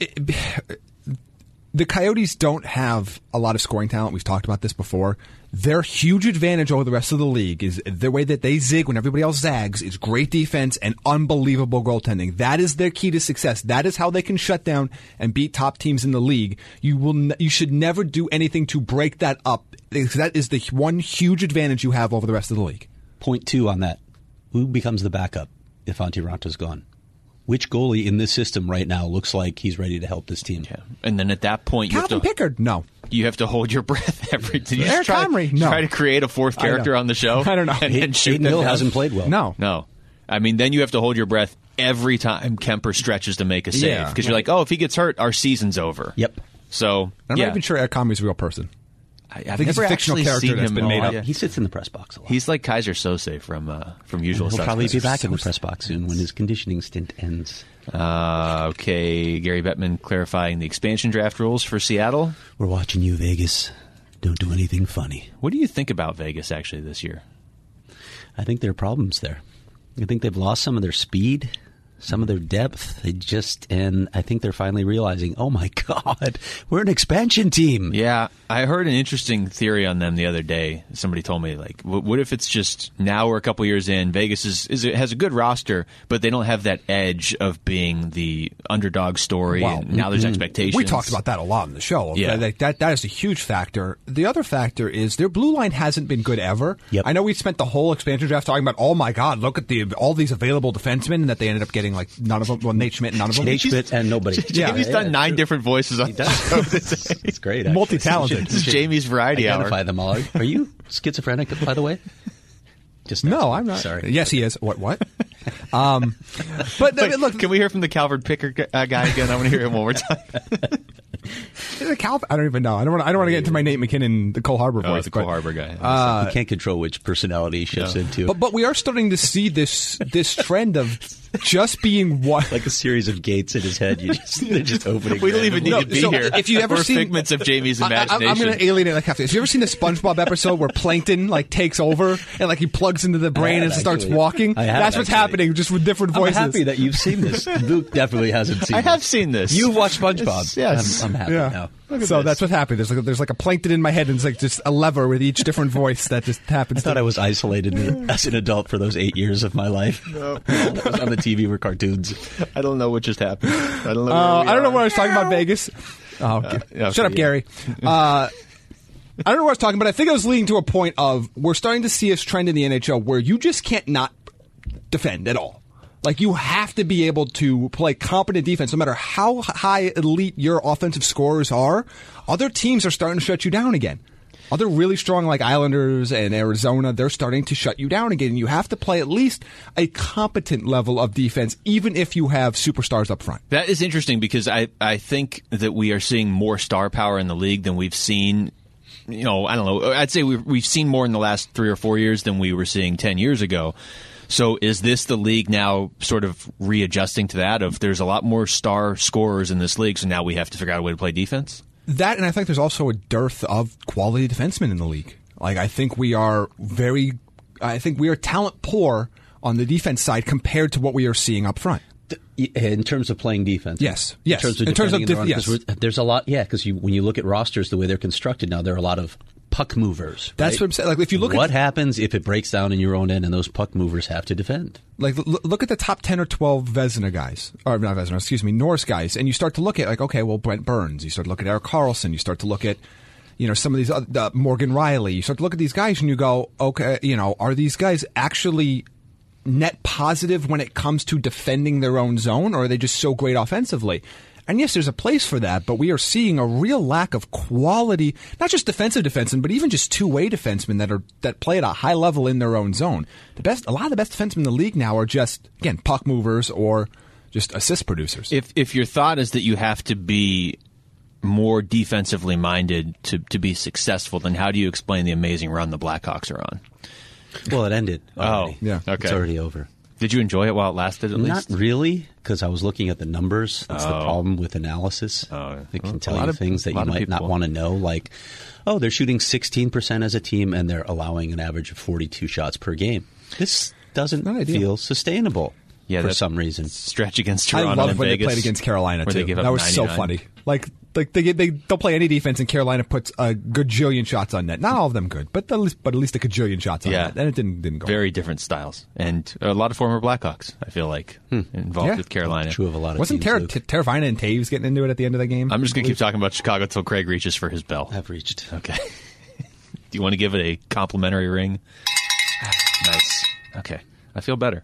the Coyotes don't have a lot of scoring talent. We've talked about this before. Their huge advantage over the rest of the league is the way that they zig when everybody else zags is great defense and unbelievable goaltending. That is their key to success. That is how they can shut down and beat top teams in the league. You should never do anything to break that up. That is the one huge advantage you have over the rest of the league. Point 2 on that. Who becomes the backup if Antti Ranta's gone? Which goalie in this system right now looks like he's ready to help this team? Yeah. And then at that point, Calvin Pickard, no. You have to hold your breath every time. Eric Comrie, no. Try to create a 4th character on the show? I don't know. And shoot Hayden Hill hasn't played well. No. I mean, then you have to hold your breath every time Kemper stretches to make a save. Because you're like, if he gets hurt, our season's over. Yep. So, I'm not even sure Eric Comrie's a real person. I think he's a fictional character that's been made up. Yeah. He sits in the press box a lot. He's like Kaiser Sose from Usual Suspects. He'll probably be back in the press box soon when his conditioning stint ends. Okay, Gary Bettman clarifying the expansion draft rules for Seattle. We're watching you, Vegas. Don't do anything funny. What do you think about Vegas actually this year? I think there are problems there. I think they've lost some of their speed, some of their depth. And I think they're finally realizing, oh my God, we're an expansion team. Yeah, I heard an interesting theory on them the other day. Somebody told me, like, what if it's just now we're a couple years in, Vegas has a good roster, but they don't have that edge of being the underdog story, and now there's expectations. We talked about that a lot in the show. Yeah. That is a huge factor. The other factor is their blue line hasn't been good ever. Yep. I know we spent the whole expansion draft talking about, oh my God, look at all these available defensemen that they ended up getting getting like none of them. Well, Nate Schmidt, none of them. Nate Schmidt and nobody. Jamie's done 9 different voices on the show. It's great. Actually. Multi-talented. This is Jamie's variety hour. Identify them all. Are you schizophrenic, by the way? No, I'm not. Sorry. Yes, he is. What? But I mean, look, Can we hear from the Calvert Picker guy again? I want to hear him one more time. I don't even know. I don't want to get into my Nate McKinnon, the Cole Harbor voice. The Cole Harbor guy. You can't control which personality he shifts into. But we are starting to see this trend of just being one. Like a series of gates in his head. They're just opening. We don't even need to be so here. if you ever We're seen figments of Jamie's imagination. I'm going to alienate like half. Have you ever seen the SpongeBob episode where Plankton like takes over and like he plugs into the brain and starts walking? That's what's happening, just with different voices. I'm happy that you've seen this. Luke definitely hasn't seen. I have seen this. You've watched SpongeBob. Yes. I'm happy now. So that's what's happening. There's like a Plankton in my head, and it's like just a lever with each different voice that just happens. I thought I was isolated as an adult for those 8 years of my life. No. All that was on the TV were cartoons. I don't know what just happened. I don't know. I don't know what I was talking about. Vegas. Shut up, Gary. I don't know what I was talking about. I think I was leading to a point of we're starting to see a trend in the NHL where you just can't not defend at all. Like, you have to be able to play competent defense no matter how high elite your offensive scorers are. Other teams are starting to shut you down again. Other really strong, like Islanders and Arizona, they're starting to shut you down again. And you have to play at least a competent level of defense, even if you have superstars up front. That is interesting because I think that we are seeing more star power in the league than we've seen. I don't know. I'd say we've seen more in the last 3 or 4 years than we were seeing 10 years ago. So is this the league now sort of readjusting to that of there's a lot more star scorers in this league, so now we have to figure out a way to play defense? That, and I think there's also a dearth of quality defensemen in the league. Like, I think we are talent poor on the defense side compared to what we are seeing up front. In terms of playing defense? Yes. In terms of yes. There's a lot, because when you look at rosters the way they're constructed now, there are a lot of puck movers. That's what I'm saying. Like, if you look what happens if it breaks down in your own end and those puck movers have to defend? Like, look at the top 10 or 12 Vezina guys, or not Vezina, excuse me, Norris guys, and you start to look at, like, okay, well, Brent Burns, you start to look at Erik Karlsson, you start to look at, some of these, Morgan Riley, you start to look at these guys and you go, okay, are these guys actually net positive when it comes to defending their own zone, or are they just so great offensively? And yes, there's a place for that, but we are seeing a real lack of quality, not just defensive defensemen, but even just two-way defensemen that play at a high level in their own zone. A lot of the best defensemen in the league now are just, again, puck movers or just assist producers. If your thought is that you have to be more defensively minded to be successful, then how do you explain the amazing run the Blackhawks are on? Well, it ended already. Oh, yeah. Okay. It's already over. Did you enjoy it while it lasted, at least? Not really, because I was looking at the numbers. That's the problem with analysis. It can tell you things that you might not want to know, like, they're shooting 16% as a team, and they're allowing an average of 42 shots per game. This doesn't feel sustainable for some reason. Stretch against Toronto I loved and when Vegas, they played against Carolina, too. That was 99. so funny. Like they don't play any defense, and Carolina puts a gajillion shots on net. Not all of them good, but at least a gajillion shots on net. And it didn't go. Very different styles, and a lot of former Blackhawks, I feel like, involved with Carolina. True of a lot of Wasn't Teravainen and Taves getting into it at the end of the game? I'm just going to keep talking about Chicago until Craig reaches for his bell. I've reached. Okay. Do you want to give it a complimentary ring? Nice. Okay. I feel better.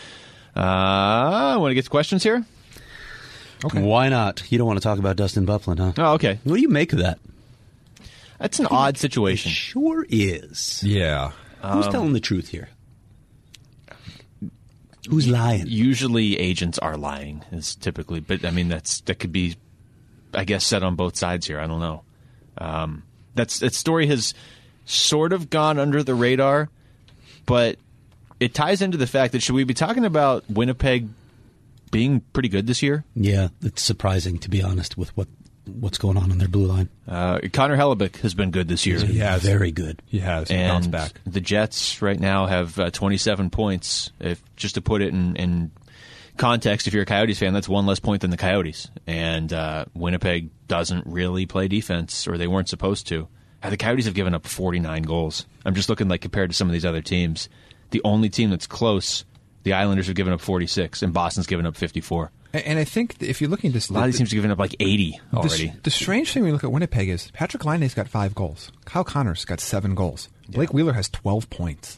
Want to get to questions here? Okay. Why not? You don't want to talk about Dustin Byfuglien, huh? Oh, okay. What do you make of that? That's an odd situation. It sure is. Yeah. Who's telling the truth here? Who's lying? Usually agents are lying, is typically, but I mean that could be, I guess, said on both sides here. I don't know. That story has sort of gone under the radar, but it ties into the fact that should we be talking about Winnipeg being pretty good this year? Yeah, it's surprising, to be honest, with what's going on their blue line. Connor Hellebuyck has been good this year. He has. Very good. He has. He and bounced back. The Jets right now have 27 points. Just to put it in context, if you're a Coyotes fan, that's one less point than the Coyotes. And Winnipeg doesn't really play defense, or they weren't supposed to. The Coyotes have given up 49 goals. I'm just looking compared to some of these other teams. The only team that's close, the Islanders have given up 46, and Boston's given up 54. And I think if you're looking at this, a lot of these teams have given up 80 already. The strange thing when you look at Winnipeg is Patrick Laine's got 5 goals. Kyle Connor's got 7 goals. Blake Wheeler has 12 points.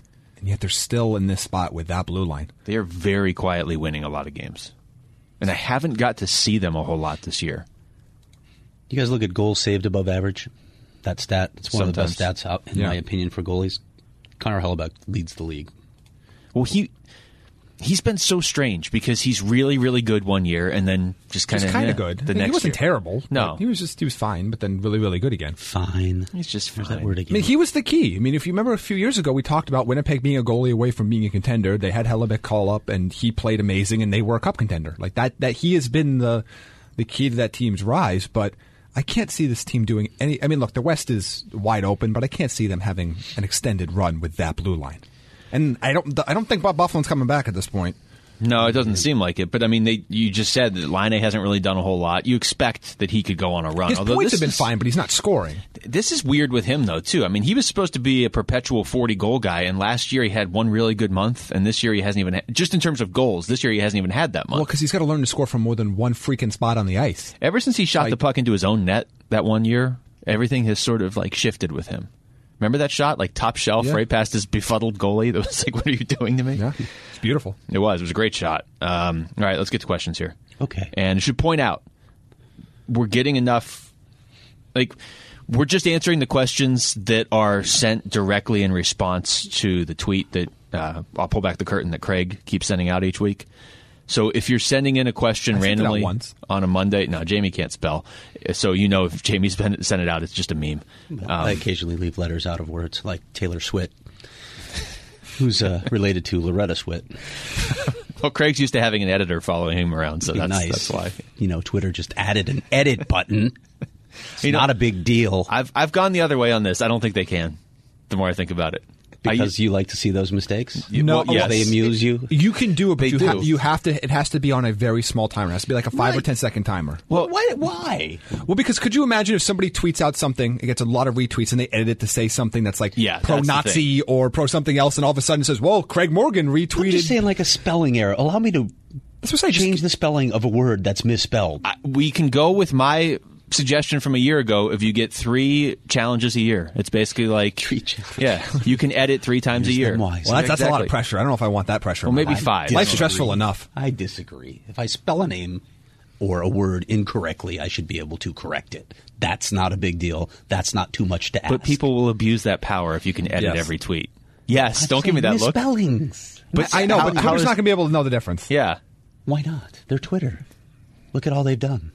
And yet they're still in this spot with that blue line. They are very quietly winning a lot of games. And I haven't got to see them a whole lot this year. You guys look at goals saved above average? That stat, it's one of the best stats out, in my opinion, for goalies. Connor Hellebuyck leads the league. Well, he's been so strange because he's really, really good one year and then just kind of good. The next he wasn't year. terrible. No. He was fine, but then really, really good again. Fine. He's just fine. That word again. I mean, he was the key. I mean, if you remember a few years ago, we talked about Winnipeg being a goalie away from being a contender. They had Hellebuyck call up, and he played amazing, and they were a cup contender. Like that he has been the key to that team's rise, but I can't see this team doing any... I mean, look, the West is wide open, but I can't see them having an extended run with that blue line. And I don't think Bob Byfuglien's coming back at this point. No, it doesn't seem like it. But, I mean, you just said that Laine hasn't really done a whole lot. You expect that he could go on a run. His points have been fine, but he's not scoring. This is weird with him, though, too. I mean, he was supposed to be a perpetual 40-goal guy, and last year he had one really good month, and this year he hasn't even just in terms of goals, this year he hasn't even had that month. Well, because he's got to learn to score from more than one freaking spot on the ice. Ever since he shot the puck into his own net that one year, everything has sort of, shifted with him. Remember that shot? Top shelf, right past his befuddled goalie? That was like, what are you doing to me? Yeah, it's beautiful. It was a great shot. All right, let's get to questions here. Okay. And I should point out, we're getting enough... we're just answering the questions that are sent directly in response to the tweet that I'll pull back the curtain that Craig keeps sending out each week. So if you're sending in a question randomly on a Monday, no, Jamie can't spell. So if Jamie's sent it out, it's just a meme. I occasionally leave letters out of words, like Taylor Swift, who's related to Loretta Swit. Well, Craig's used to having an editor following him around, so that's why. Twitter just added an edit button. It's not a big deal. I've gone the other way on this. I don't think they can, the more I think about it. Because you like to see those mistakes? No, yes. They amuse you? You can do it, but you have to. It has to be on a very small timer. It has to be like a 5 or 10 second timer. Well, why? Well, because could you imagine if somebody tweets out something, it gets a lot of retweets, and they edit it to say something that's like pro-Nazi or pro-something else, and all of a sudden it says, "Well, Craig Morgan retweeted." I'm just saying, like a spelling error. Allow me to change the spelling of a word that's misspelled. We can go with my suggestion from a year ago. If you get 3 challenges a year, it's basically like 3 challenges. Yeah, you can edit 3 times a year. Well, that's a lot of pressure. I don't know if I want that pressure. Well, maybe 5. Life's stressful enough. I disagree. If I spell a name or a word incorrectly, I should be able to correct it. That's not a big deal. That's not too much to ask. But people will abuse that power if you can edit every tweet. Yes, don't give me that look. Misspellings. But I know, but Twitter's not going to be able to know the difference. Yeah. Why not? They're Twitter. Look at all they've done.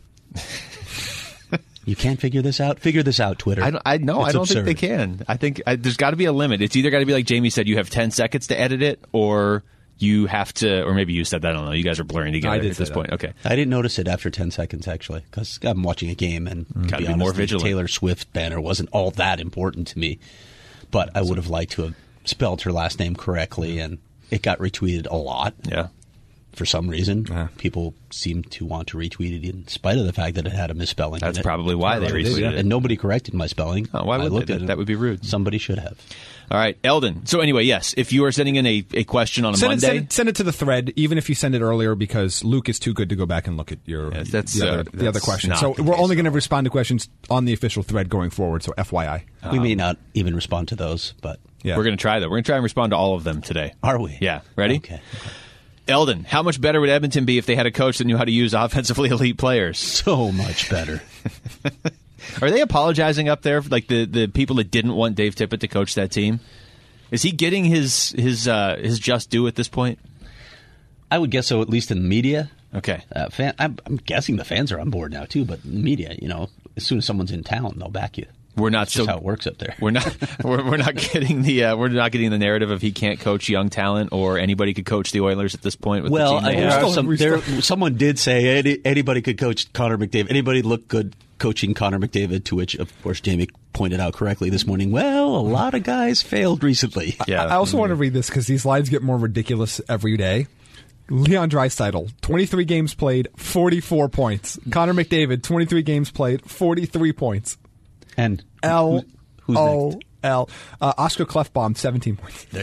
You can't figure this out? Figure this out, Twitter. I don't think they can. I think there's got to be a limit. It's either got to be like Jamie said, you have 10 seconds to edit it, or you have to, or maybe you said that, I don't know. You guys are blurring together at this point. Okay. I didn't notice it after 10 seconds, actually, because I'm watching a game, and to be honest, more vigilant. The Taylor Swift banner wasn't all that important to me. But I would have liked to have spelled her last name correctly, and it got retweeted a lot. Yeah. For some reason, people seem to want to retweet it in spite of the fact that it had a misspelling. That's probably why they retweeted it. And nobody corrected my spelling. Oh, why would they? That would be rude. Somebody should have. All right, Eldon. So anyway, yes, if you are sending in a question on a Monday... Send it to the thread, even if you send it earlier, because Luke is too good to go back and look at the other questions. So we're only going to respond to questions on the official thread going forward, so FYI. We may not even respond to those, but... Yeah. We're going to try, though. We're going to try and respond to all of them today. Are we? Yeah. Ready? Okay. Eldon, how much better would Edmonton be if they had a coach that knew how to use offensively elite players? So much better. Are they apologizing up there, like the people that didn't want Dave Tippett to coach that team? Is he getting his just due at this point? I would guess so, at least in the media. Okay. I'm guessing the fans are on board now, too, but in the media, as soon as someone's in town, they'll back you. We're not That's just how it works up there. We're not getting the narrative of he can't coach young talent or anybody could coach the Oilers at this point. With the team someone did say anybody could coach Connor McDavid. Anybody looked good coaching Connor McDavid, to which, of course, Jamie pointed out correctly this morning, well, a lot of guys failed recently. Yeah. I also want to read this because these lines get more ridiculous every day. Leon Draisaitl, 23 games played, 44 points. Connor McDavid, 23 games played, 43 points. And who's next? Oscar Klefbom, 17 points. There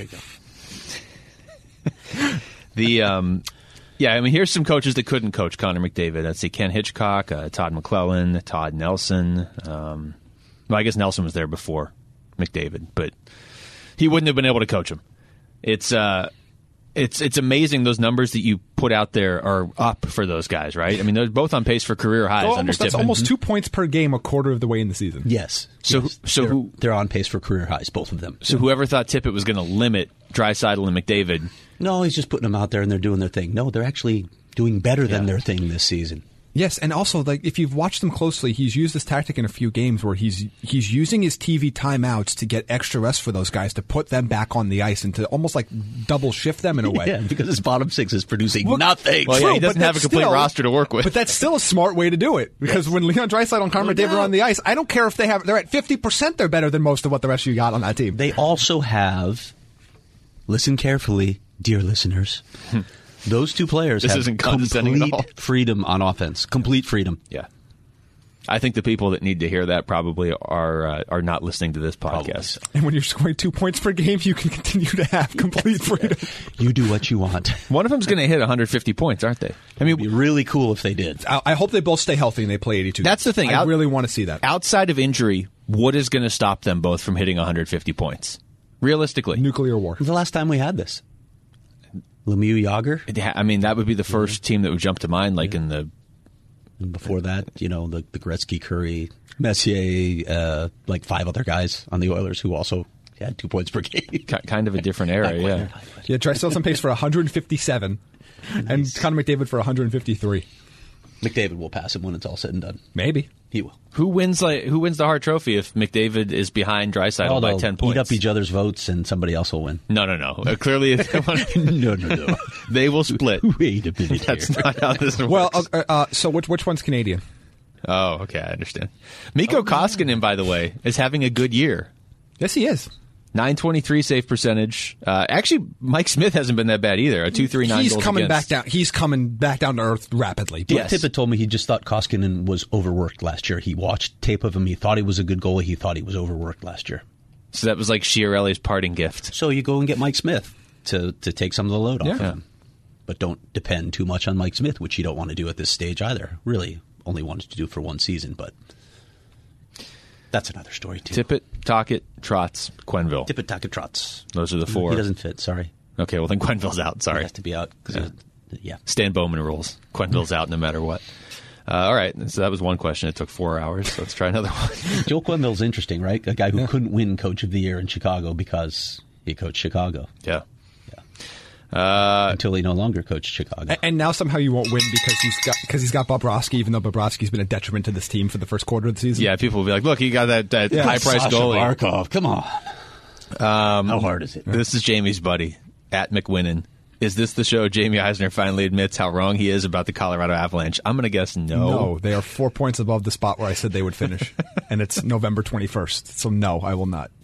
you go. Here's some coaches that couldn't coach Connor McDavid. Let's see, Ken Hitchcock, Todd McClellan, Todd Nelson. I guess Nelson was there before McDavid, but he wouldn't have been able to coach him. It's amazing those numbers that you put out there are up for those guys, right? I mean, they're both on pace for career highs under Tippett. That's almost 2 points per game a quarter of the way in the season. Yes. They're on pace for career highs, both of them. So whoever thought Tippett was going to limit Draisaitl and McDavid. No, he's just putting them out there and they're doing their thing. No, they're actually doing better than their thing this season. Yes, and also, like, if you've watched them closely, he's used this tactic in a few games where he's using his TV timeouts to get extra rest for those guys, to put them back on the ice and to almost like double shift them in a way. Yeah, because his bottom six is producing nothing. Well, True, yeah, he doesn't have a complete roster to work with. But that's still a smart way to do it, because when Leon Draisaitl and Connor McDavid are on the ice, I don't care if they're at 50%, they're better than most of what the rest of you got on that team. They also have, listen carefully, dear listeners, those two players have complete freedom on offense. Complete freedom. Yeah. I think the people that need to hear that probably are not listening to this podcast. And when you're scoring 2 points per game, you can continue to have complete freedom. You do what you want. One of them's going to hit 150 points, aren't they? I mean, it'd be really cool if they did. I hope they both stay healthy and they play 82. That's the thing. I really want to see that. Outside of injury, what is going to stop them both from hitting 150 points? Realistically. Nuclear war. The last time we had this. Lemieux, Yager. I mean, that would be the first team that would jump to mind, like in the... And before that, the Gretzky, Curry, Messier, like 5 other guys on the Oilers who also had 2 points per game. Kind of a different era, yeah. Yeah, Draisaitl's on pace for 157, and Connor McDavid for 153. McDavid will pass him when it's all said and done. Maybe. He will. Who wins the Hart Trophy if McDavid is behind Draisaitl by 10 points? Eat up each other's votes and somebody else will win. No. Clearly, if they want, no. They will split. Wait a minute. That's not how this works. Well, so which one's Canadian? Oh, okay, I understand. Mikko Koskinen, by the way, is having a good year. Yes, he is. 923 save percentage. Actually, Mike Smith hasn't been that bad either. A 2.39 goals He's coming against. back down. He's coming back down to earth rapidly. Yes. Tippett told me he just thought Koskinen was overworked last year. He watched tape of him. He thought he was a good goalie. He thought he was overworked last year. So that was like Chiarelli's parting gift. So you go and get Mike Smith to take some of the load off of him. But don't depend too much on Mike Smith, which you don't want to do at this stage either. Really, only wanted to do for one season, but that's another story, too. Tippett, Tocchet, Trotz, Quenneville. Tippett, Tocchet, Trotz. Those are the 4. He doesn't fit, sorry. Okay, well then Quenneville's out, sorry. He has to be out. Stan Bowman rules. Quenneville's out no matter what. All right, so that was one question. It took 4 hours, so let's try another one. Joel Quenneville's interesting, right? A guy who couldn't win Coach of the Year in Chicago because he coached Chicago. Yeah. Until he no longer coached Chicago. And now somehow you won't win because he's got Bobrovsky, even though Bobrovsky's been a detriment to this team for the first quarter of the season. Yeah, people will be like, look, he got that high-priced goalie. Barkov, come on. How hard is it? This is Jamie's buddy, at McWinnon. Is this the show Jamie Eisner finally admits how wrong he is about the Colorado Avalanche? I'm going to guess no. No, they are 4 points above the spot where I said they would finish. And it's November 21st. So no, I will not.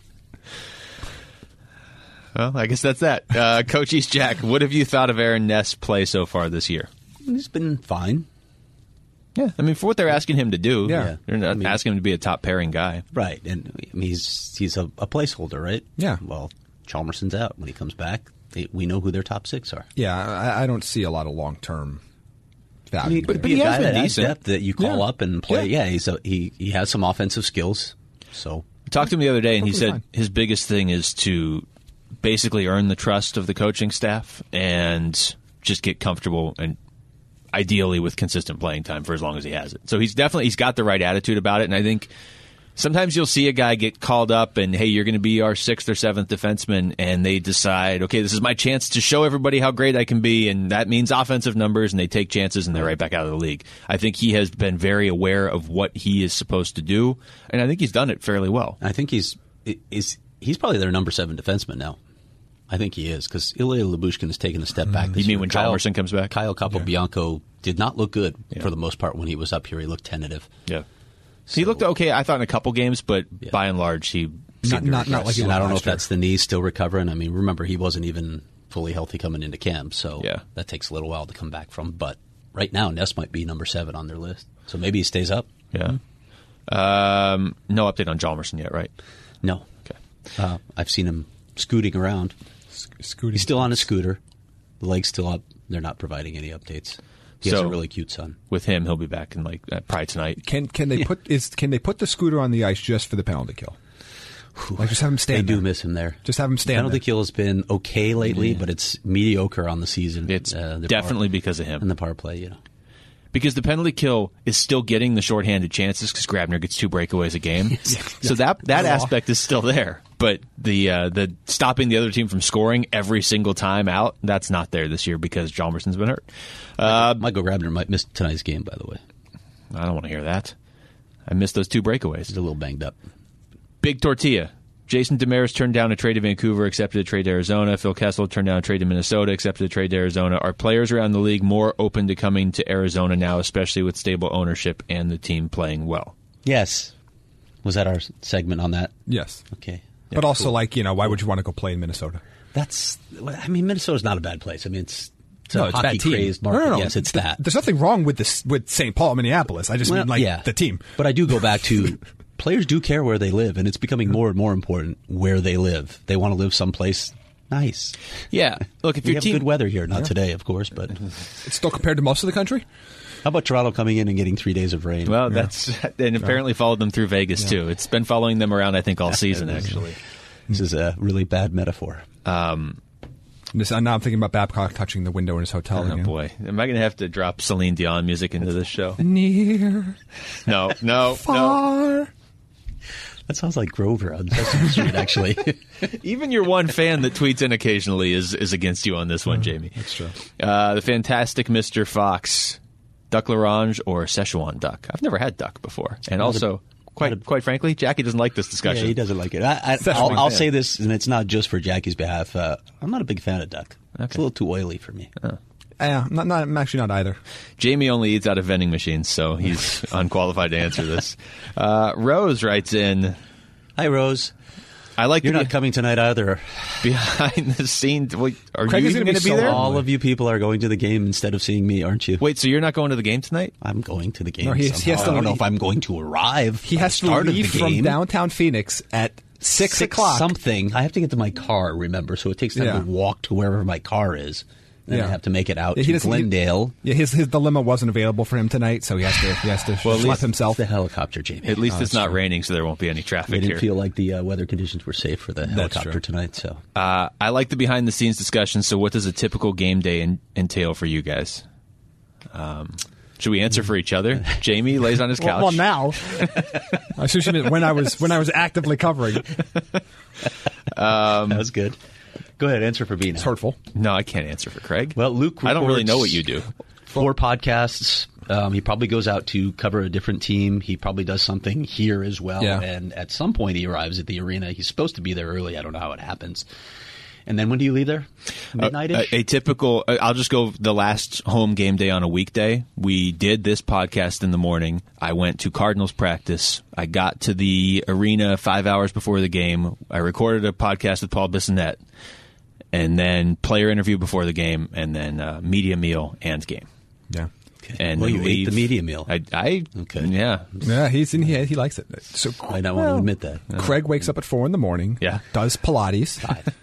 Well, I guess that's that. Coach East Jack, what have you thought of Aaron Ness' play so far this year? He's been fine. Yeah, I mean, for what they're asking him to do, they're not asking him to be a top pairing guy. Right, and he's a placeholder, right? Yeah. Well, Chalmerson's out. When he comes back, we know who their top 6 are. Yeah, I don't see a lot of long-term value. But he has been decent. Depth that you call up and play. Yeah, he has some offensive skills. So I talked to him the other day, and he said fine. his biggest thing is to basically earn the trust of the coaching staff and just get comfortable and ideally with consistent playing time for as long as he has it. So he's got the right attitude about it, and I think sometimes you'll see a guy get called up and, hey, you're going to be our 6th or 7th defenseman, and they decide, okay, this is my chance to show everybody how great I can be, and that means offensive numbers, and they take chances, and they're right back out of the league. I think he has been very aware of what he is supposed to do, and I think he's done it fairly well. I think he's probably their number 7 defenseman now. I think he is, because Ilya Lyubushkin has taken a step back. You mean when Chalmerson comes back? Kyle Capobianco did not look good for the most part when he was up here. He looked tentative. Yeah. He looked okay, I thought, in a couple games, but by and large, he seemed not like he and I don't know if last year. that's the knee still recovering. I mean, remember, he wasn't even fully healthy coming into camp, so that takes a little while to come back from. But right now, Ness might be number 7 on their list, so maybe he stays up. Yeah. No update on Chalmerson yet, right? No. Okay. I've seen him scooting around. He's still on a scooter. The leg's still up. They're not providing any updates. He has a really cute son. With him, he'll be back in probably tonight. Can they put the scooter on the ice just for the penalty kill? Like, just have him stand They there. do miss him there. Just have him stand Penalty there. kill has been okay lately, but it's mediocre on the season. It's The definitely power, because of him. and the power play, Because the penalty kill is still getting the shorthanded chances because Grabner gets 2 breakaways a game. So that aspect is still there. But the stopping the other team from scoring every single time out, that's not there this year because Hjalmarsson's been hurt. Michael Grabner might miss tonight's game, by the way. I don't want to hear that. I missed those 2 breakaways. He's a little banged up. Big tortilla. Jason Demers turned down a trade to Vancouver, accepted a trade to Arizona. Phil Kessel turned down a trade to Minnesota, accepted a trade to Arizona. Are players around the league more open to coming to Arizona now, especially with stable ownership and the team playing well? Yes. Was that our segment on that? Yes. Okay. But also, why would you want to go play in Minnesota? Minnesota's not a bad place. I mean, it's No, a it's a bad team. hockey-crazed market. No. Yes, it's that. There's nothing wrong with this with St. Paul, Minneapolis. I just mean the team. But I do go back to players do care where they live, and it's becoming more and more important where they live. They want to live someplace nice. Yeah. Look, if We your have team good weather here, not today, of course, but It's still compared to most of the country. how about Toronto coming in and getting 3 days of rain? Well, and apparently followed them through Vegas too. It's been following them around, I think, all season actually. This is a really bad metaphor. Now I'm thinking about Babcock touching the window in his hotel Oh again. boy, am I going to have to drop Celine Dion music into this show? Near, No. far. That sounds like Grover on Sesame Street, actually. Even your one fan that tweets in occasionally is against you on this one, Jamie. That's true. The fantastic Mr. Fox, Duck L'Orange or Szechuan duck? I've never had duck before, and also, quite frankly, Jackie doesn't like this discussion. Yeah, he doesn't like it. Szechuan I'll fan. say this, and it's not just for Jackie's behalf. I'm not a big fan of duck. It's a little too oily for me. Yeah, I'm actually not either. Jamie only eats out of vending machines, so he's unqualified to answer this. Rose writes in, Hi, Rose. I like You're to not coming tonight either. behind the scenes. Wait, are Craig you is even gonna going be to be so there? long. All of you people are going to the game instead of seeing me, aren't you? Wait, so you're not going to the game tonight? I'm going to the game. No, he somehow. has to I don't know leave. if I'm going to arrive. He by has the to start of leave the from game. downtown Phoenix at 6 o'clock. Something. I have to get to my car, remember, so it takes time Yeah. to walk to wherever my car is. Then I have to make it out Yeah, to doesn't- Glendale. His dilemma wasn't available for him tonight, so he has to Well, at schlep least himself. The helicopter, Jamie. At least it's not raining, so there won't be any I traffic didn't here. feel like the weather conditions were safe for the helicopter true. tonight. So I like the behind-the-scenes discussion, so what does a typical game day entail for you guys? Should we answer for each other? Jamie lays on his couch. Well, now. I should have meant when I was actively covering. that was good. Go ahead, answer for B now. It's hurtful. No, I can't answer for Craig. Well, Luke, I don't really know what records you do. 4 podcasts. He probably goes out to cover a different team. He probably does something here as well. Yeah. And at some point, he arrives at the arena. He's supposed to be there early. I don't know how it happens. And then when do you leave there? Midnight-ish? A typical, I'll just go the last home game day on a weekday. We did this podcast in the morning. I went to Cardinals practice. I got to the arena 5 hours before the game. I recorded a podcast with Paul Bissonnette, and then player interview before the game, and then media meal and game. Yeah. And Well, then you ate leave. the media meal. Okay. Yeah. Yeah, he likes it. So I don't want to admit that. Craig wakes up at 4 in the morning. Yeah. Does Pilates.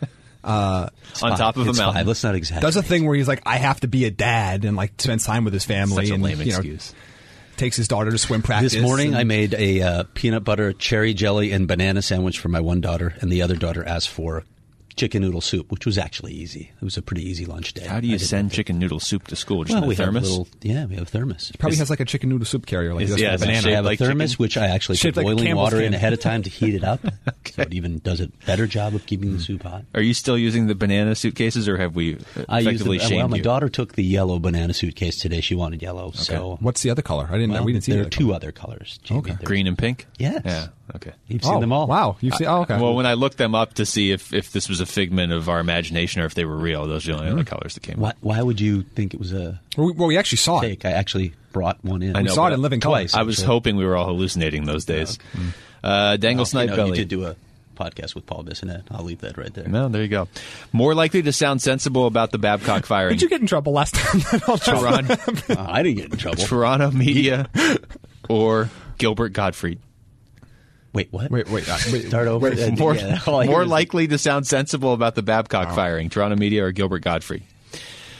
On top of a It's mountain. 5. Let's not exaggerate. Does a thing where he's like, I have to be a dad and like spend time with his family. Such a and lame you know, excuse. takes his daughter to swim practice. This morning, and- I made a peanut butter, cherry jelly, and banana sandwich for my one daughter, and the other daughter asked for chicken noodle soup, which was actually easy. It was a pretty easy lunch day. How do you send chicken noodle soup to school? Just in a we have a thermos? we have a thermos. Probably has like a chicken noodle soup carrier. Like Is- this yeah, with is it banana. shaped I have like a thermos, chicken? which I actually put Shaped like boiling Campbell's water in can. ahead of time to heat it up, so it even does a better job of keeping the soup hot. Are you still using the banana suitcases, or have we I used effectively shamed well, my you? daughter took the yellow banana suitcase today. She wanted yellow, so What's the other color? We didn't see there the are 2 other colors. Jamie. Okay. There's- Green and pink? Yes. Yeah. Okay. You've seen them all. Wow, you've seen. Oh, okay. Well, when I looked them up to see if this was a figment of our imagination or if they were real, those are the only other colors that came up. Why would you think it was a we actually saw it. fake? I actually brought one in. I know, We saw it but in living color. twice. I was actually. hoping we were all hallucinating those days. Dangle Snipe you Belly. did do a podcast with Paul Bissonnette. I'll leave that right there. No, there you go. More likely to sound sensible about the Babcock firing. Did you get in trouble last time? Toronto, I didn't get in trouble. Toronto media or Gilbert Gottfried? Wait, what? wait. Start over. More, Yeah, all I hear more is- likely to sound sensible about the Babcock firing, Toronto media or Gilbert Gottfried?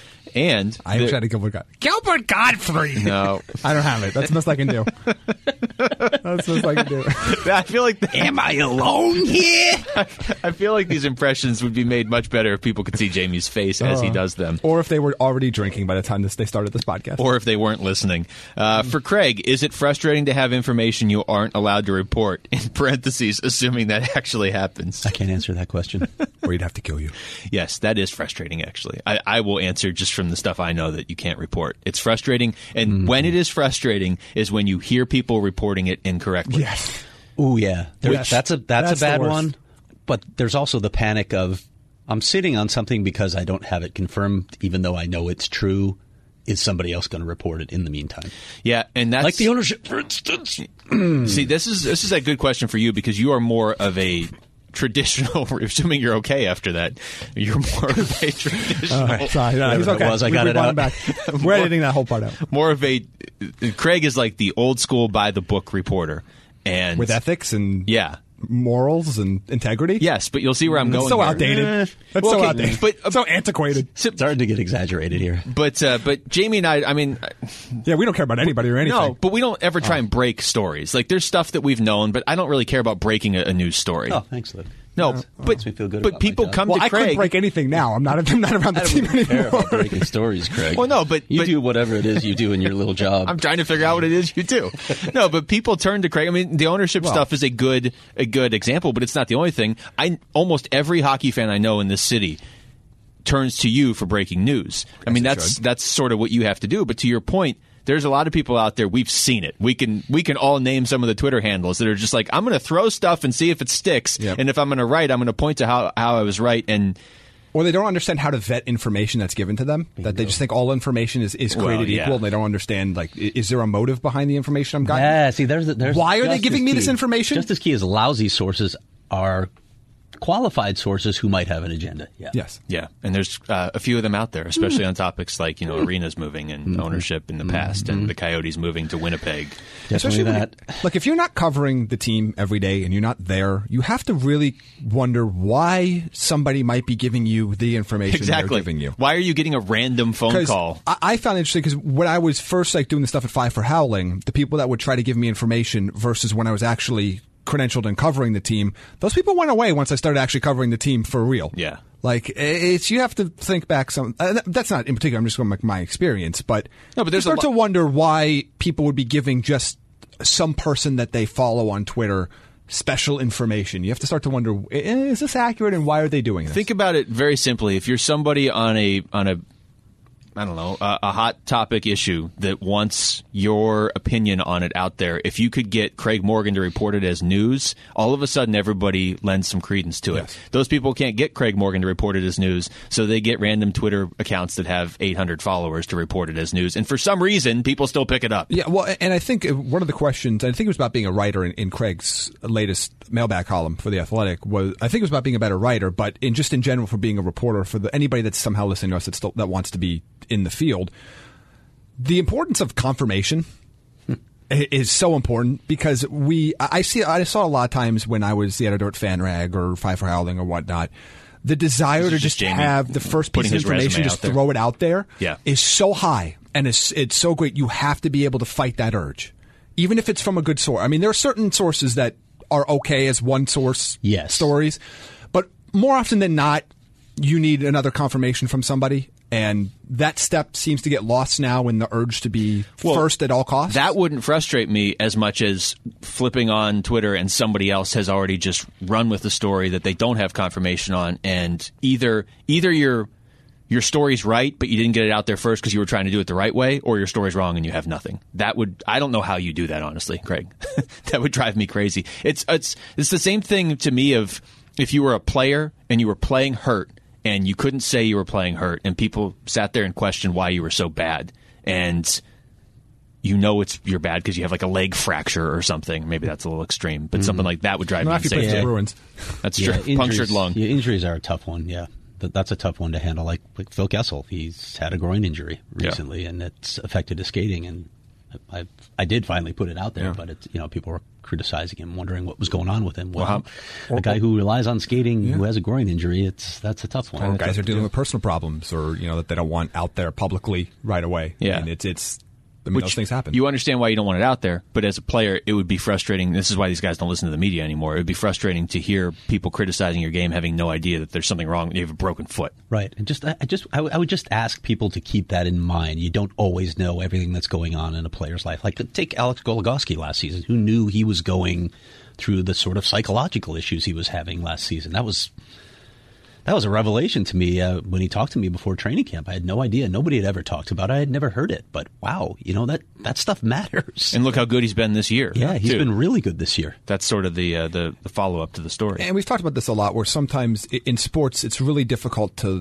And I wish I had a Gilbert Godfrey. Gilbert Godfrey. no, I don't have it. That's the best I can do. That's what I can do. I feel like Am I alone here? I feel like these impressions would be made much better if people could see Jamie's face as he does them. Or if they were already drinking by the time they started this podcast. Or if they weren't listening. For Craig, is it frustrating to have information you aren't allowed to report? In parentheses, assuming that actually happens. I can't answer that question. Or he'd have to kill you. Yes, that is frustrating, actually. I will answer just from the stuff I know that you can't report. It's frustrating, and when it is frustrating is when you hear people reporting it incorrectly. Yes. Oh yeah, that's a bad worst. one. But there's also the panic of I'm sitting on something because I don't have it confirmed, even though I know it's true. Is somebody else going to report it in the meantime? Yeah, and that's Like the ownership, for instance. See, this is a good question for you because you are more of a traditional. Assuming you're okay after that, you're more of a traditional. Sorry, no, he's okay. I got it out. Back. We're editing that whole part out. More of a. Craig is like the old school by the book reporter, and With ethics and yeah. morals and integrity. Yes, but you'll see where I'm going. So there. outdated. That's Well, so okay, outdated. but- so antiquated. It's starting to get exaggerated here. But Jamie and I mean, Yeah, we don't care about anybody or anything. no, but we don't ever try and break stories. Like there's stuff that we've known, but I don't really care about breaking a news story. Oh, thanks, Luke. No, makes me feel good but about people my job. come Well, to I couldn't Craig. break anything now. I'm not around the team care anymore. about breaking stories, Craig. Well, no, but you do whatever it is you do in your little job. I'm trying to figure out what it is you do. No, but people turn to Craig. I mean, the ownership stuff is a good example, but it's not the only thing. Almost every hockey fan I know in this city turns to you for breaking news. I mean, that's sort of what you have to do. But to your point, there's a lot of people out there. We've seen it. We can all name some of the Twitter handles that are just like, I'm going to throw stuff and see if it sticks. Yep. And if I'm going to write, I'm going to point to how I was right. And Or they don't understand how to vet information that's given to them. That they just think all information is created yeah. equal, and they don't understand, like, is there a motive behind the information I'm getting? Yeah, see, there's Why are they just giving as me key. this information? Just as key as lousy sources are qualified sources who might have an agenda. Yeah. Yes. yeah, and there's a few of them out there, especially on topics like, arenas moving and ownership in the past and the Coyotes moving to Winnipeg. Definitely when that. Look, if you're not covering the team every day and you're not there, you have to really wonder why somebody might be giving you the information they're Exactly. giving you. Why are you getting a random phone call? I found it interesting because when I was first doing the stuff at Five for Howling, the people that would try to give me information versus when I was actually credentialed and covering the team, those people went away once I started actually covering the team for real. Yeah. Like, it's, you have to think back some, that's not in particular, I'm just going to my experience, but, No, but there's you a start to wonder why people would be giving just some person that they follow on Twitter special information. You have to start to wonder, is this accurate and why are they doing this? Think about it very simply. If you're somebody on a I don't know, a hot topic issue that wants your opinion on it out there, if you could get Craig Morgan to report it as news, all of a sudden everybody lends some credence to it. Yes. Those people can't get Craig Morgan to report it as news, so they get random Twitter accounts that have 800 followers to report it as news. And for some reason, people still pick it up. Yeah, well, and I think one of the questions, I think it was about being a writer in Craig's latest mailbag column for The Athletic, I think it was about being a better writer, but in general for being a reporter, for anybody that's somehow listening to us that wants to be in the field, the importance of confirmation is so important because I saw a lot of times when I was the editor at FanRag or Five for Howling or whatnot, the desire to just have the first piece of information, just throw it out there, is so high and it's so great. You have to be able to fight that urge, even if it's from a good source. I mean, there are certain sources that are okay as one source stories, but more often than not, you need another confirmation from somebody. And that step seems to get lost now in the urge to be first at all costs. That wouldn't frustrate me as much as flipping on Twitter and somebody else has already just run with the story that they don't have confirmation on, and either your story's right, but you didn't get it out there first because you were trying to do it the right way, or your story's wrong and you have nothing. I don't know how you do that, honestly, Craig. That would drive me crazy. It's the same thing to me of if you were a player and you were playing hurt, and you couldn't say you were playing hurt, and people sat there and questioned why you were so bad. And you're bad because you have like a leg fracture or something. Maybe that's a little extreme, but something like that would drive me insane. Yeah. Bruins. That's true. Punctured lung. Yeah, injuries are a tough one, yeah. That's a tough one to handle. Like Phil Kessel, he's had a groin injury recently, and it's affected his skating. And I did finally put it out there, but it's, people were criticizing him, wondering what was going on with him. Well, a guy who relies on skating who has a groin injury, that's a tough one. Or guys are dealing with personal problems, or that they don't want out there publicly right away. Yeah, and it's I mean, those things happen. You understand why you don't want it out there, but as a player, it would be frustrating. This is why these guys don't listen to the media anymore. It would be frustrating to hear people criticizing your game, having no idea that there's something wrong. You have a broken foot. Right. And I would just ask people to keep that in mind. You don't always know everything that's going on in a player's life. Like, take Alex Goligoski last season. Who knew he was going through the sort of psychological issues he was having last season? That was a revelation to me when he talked to me before training camp. I had no idea. Nobody had ever talked about it. I had never heard it. But wow, that stuff matters. And look how good he's been this year. Yeah, he's been really good this year. That's sort of the follow-up to the story. And we've talked about this a lot, where sometimes in sports it's really difficult to...